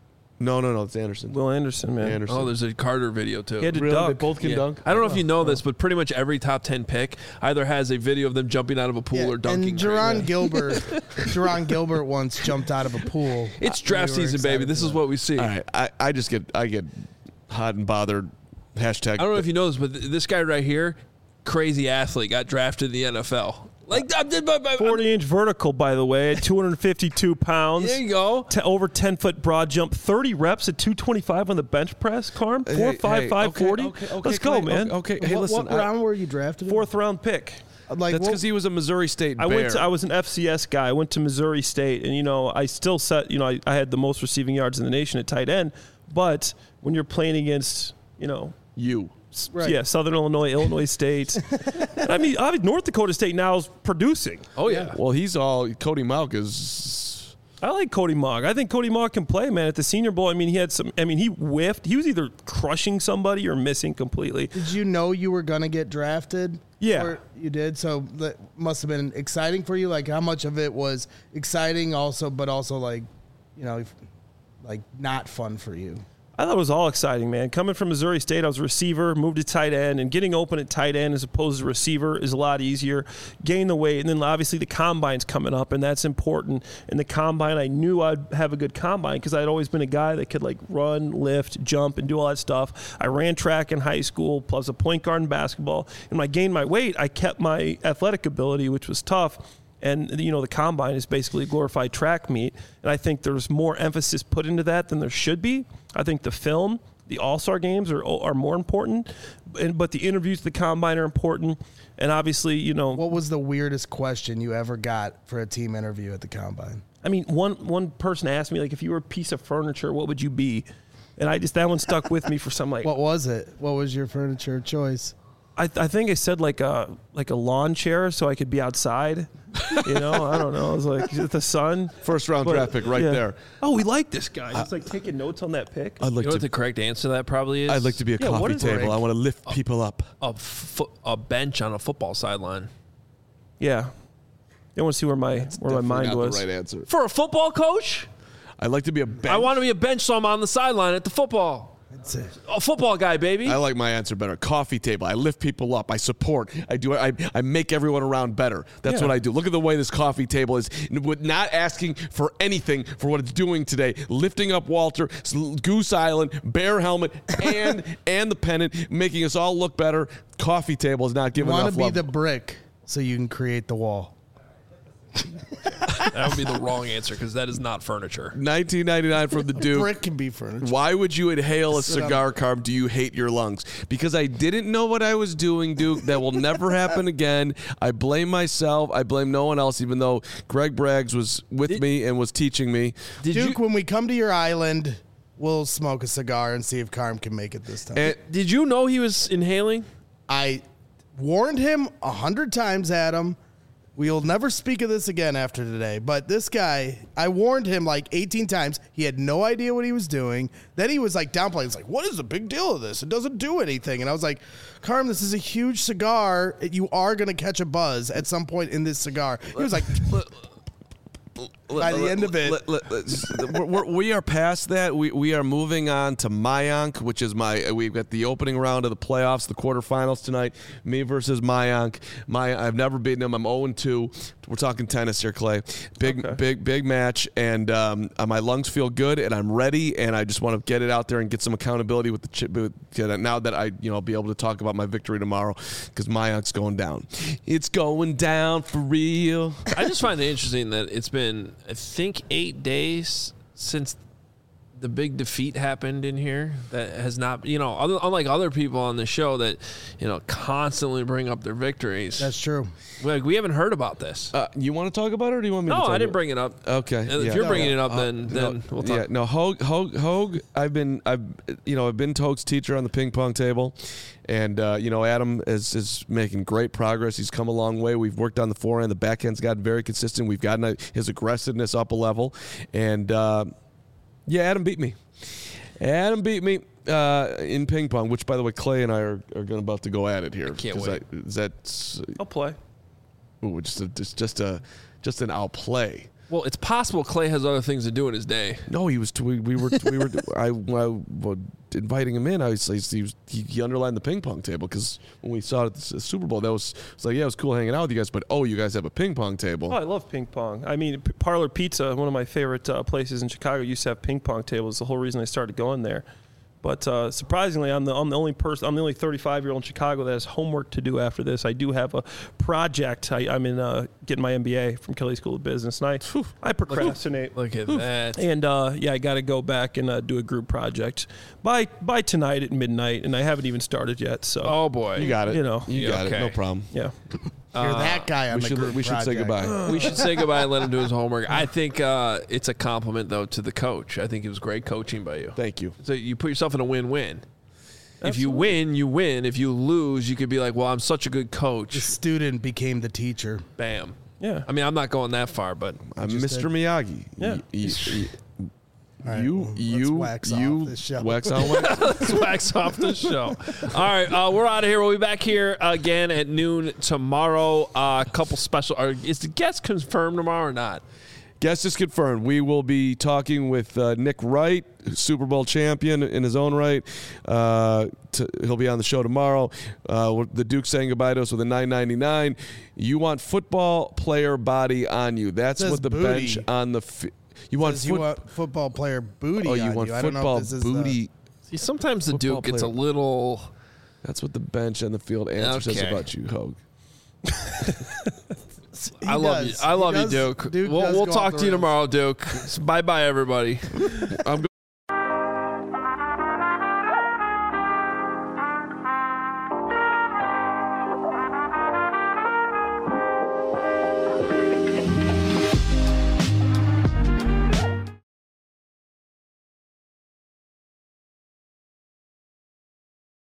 No, no, no. It's Anderson. Will Anderson, man. Anderson. Oh, there's a Carter video too. He had to Really? dunk. They both can Yeah. dunk? I don't know if you know this, but pretty much every top ten pick either has a video of them jumping out of a pool Yeah, or dunking. and Jerron Gilbert, Jerron Gilbert once jumped out of a pool. It's Uh, draft we were season, baby. excited This for is that. what we see. All right. I, I just get I get hot and bothered. Hashtag. I don't know if you know this, but th- this guy right here, crazy athlete, got drafted in the N F L. Like, I'm, I'm, I'm, forty-inch vertical, by the way, at two hundred fifty-two pounds. there you go. Te- over ten-foot broad jump, thirty reps at two twenty-five on the bench press, Carm. Hey, four hey, five five okay, forty. okay, okay, Let's go, Clay, man. Okay, okay. Hey, what, listen. what I- round were you drafted? in? Fourth round pick. Like, that's what- because he was a Missouri State Bear. I went. To, I was an F C S guy. I went to Missouri State, and you know, I still set. You know, I, I had the most receiving yards in the nation at tight end. But when you're playing against, you know, you. s- Right. yeah, Southern Illinois, Illinois State. I mean, I mean, North Dakota State now is producing. Oh, yeah. Well, he's all Cody Mauch is. I like Cody Mogg. I think Cody Mogg can play, man. At the Senior Bowl, I mean, he had some. I mean, he whiffed. He was either crushing somebody or missing completely. Did you know you were gonna get drafted? Yeah. Or you did. So that must have been exciting for you. Like, how much of it was exciting, also, but also like, you know, like not fun for you? I thought it was all exciting, man. Coming from Missouri State, I was a receiver, moved to tight end, and getting open at tight end as opposed to receiver is a lot easier. Gain the weight, and then obviously the combine's coming up, and that's important. In the combine, I knew I'd have a good combine because I'd always been a guy that could like run, lift, jump, and do all that stuff. I ran track in high school, plus a point guard in basketball. And when I gained my weight, I kept my athletic ability, which was tough. And, you know, the combine is basically a glorified track meet. And I think there's more emphasis put into that than there should be. I think the film, the all-star games are are more important. And, but the interviews at the combine are important. And obviously, you know. What was the weirdest question you ever got for a team interview at the combine? I mean, one one person asked me, like, if you were a piece of furniture, what would you be? And I just, that one stuck with me for some, like. What was it? What was your furniture choice? I, I think I said like a like a lawn chair so I could be outside. You know, I don't know. I was like, is it the sun? First round But, draft pick right yeah. there. Oh, we like this guy. He's like taking notes on that pick. I'd You like know what to. the correct answer to that probably is? I'd like to be a Yeah, what coffee is table. Rick? I want to lift people up. a, fo- a bench on a football sideline. Yeah. They want to see where my where my mind Not was. the right answer. For a football coach? I'd like to be a bench. I want to be a bench so I'm on the sideline at the football. That's it. A football guy, baby. I like my answer better. Coffee table. I lift people up. I support. I do. I, I make everyone around better. That's Yeah. what I do. Look at the way this coffee table is. With not asking for anything for what it's doing today. Lifting up Walter, Goose Island, Bear helmet, and and the pennant, making us all look better. Coffee table is not giving Want enough to be love. the brick so you can create the wall. That would be the wrong answer because that is not furniture. nineteen ninety-nine from the Duke. Brick can be furniture. Why would you inhale a Sit on cigar, Carb? Do you hate your lungs? Because I didn't know what I was doing, Duke. That will never happen again. I blame myself. I blame no one else, even though Greg Braggs was with me and was teaching me. Did Duke, you when we come to your island, we'll smoke a cigar and see if Carm can make it this time. And did you know he was inhaling? I warned him a hundred times, Adam. We'll never speak of this again after today. But this guy, I warned him like eighteen times. He had no idea what he was doing. Then he was like downplaying. He's like, what is the big deal of this? It doesn't do anything. And I was like, Carm, this is a huge cigar. You are going to catch a buzz at some point in this cigar. He was like, by the end of it. Let- let- let's- we're- we're- we are past that. We we are moving on to Mayank, which is my. We've got the opening round of the playoffs, the quarterfinals tonight. Me versus Mayank. My I've never beaten him. I'm zero and two. We're talking tennis here, Clay. Big Okay. big big match, and um, uh, my lungs feel good, and I'm ready, and I just want to get it out there and get some accountability with the chip. With, now that I you know be able to talk about my victory tomorrow, because Mayank's going down. It's going down for real. I just find it interesting that it's been, I think, eight days since the big defeat happened in here. That has not, you know, other, unlike other people on the show that, you know, constantly bring up their victories. that's true. Like, we haven't heard about this. Uh, you want to talk about it, or do you want me? no, to talk I didn't about bring it up. Okay, And If yeah. you're No, bringing yeah. it up, Uh, then then no, we'll talk. Yeah, no, Hogue, Hogue, Hogue. I've been, I've, you know, I've been Toge's teacher on the ping pong table, and uh, you know, Adam is is making great progress. He's come a long way. We've worked on the forehand. The backhand's gotten very consistent. We've gotten a, his aggressiveness up a level, and uh, yeah, Adam beat me. Adam beat me uh, in ping pong, which, by the way, Clay and I are, are going about to go at it here. can't 'Cause wait. I, is that I'll play. ooh, just a, just just a just an I'll play. Well, it's possible Clay has other things to do in his day. No, he was. T- we, we were. We were. I, I was inviting him in. I was. He was. He, he underlined the ping pong table because when we saw it at the Super Bowl, that was. It's like, yeah, it was cool hanging out with you guys, but oh, you guys have a ping pong table. Oh, I love ping pong. I mean, P- Parlor Pizza, one of my favorite uh, places in Chicago, used to have ping pong tables. The whole reason I started going there. But uh, surprisingly, I'm the I'm the only person. I'm the only thirty-five-year-old in Chicago that has homework to do after this. I do have a project. I, I'm in uh, getting my M B A from Kelly School of Business, and I I procrastinate. Look at that. And uh, yeah, I got to go back and uh, do a group project by by tonight at midnight, and I haven't even started yet. So Oh boy, You got it. You know. You Yeah, got okay. it. No problem. yeah. You're that guy on We the should. group We should say project. goodbye. we should say goodbye and let him do his homework. I think uh, it's a compliment though to the coach. I think it was great coaching by you. Thank you. So you put yourself in a win-win. If you Absolutely. win, you win. If you lose, you could be like, "Well, I'm such a good The coach." student became the teacher. Bam. Yeah. I mean, I'm not going that far, but I'm just Mister did. Miyagi. Yeah. Y- y- y- All right, you, well, let's you, wax off you, this show. wax on, wax. let's wax off the show. All right, uh, we're out of here. We'll be back here again at noon tomorrow. A uh, couple special. Are, is the guest confirmed tomorrow or not? Guest is confirmed. We will be talking with uh, Nick Wright, Super Bowl champion in his own right. Uh, to, he'll be on the show tomorrow. Uh, the Duke saying goodbye to us with a nine ninety-nine. You want football player body on you. That's Says what the booty. bench on the. Fi- you want Says you foot- want football player booty. Oh, you on want you. I don't know if football this is the- booty. See, sometimes the Football Duke gets a player. little. That's what the bench and the field answer says Okay. about you, Hogue. He I love does. you. I He love does- you, Duke. Duke we'll does we'll go talk off to you the rails. tomorrow, Duke. Bye bye, everybody. I'm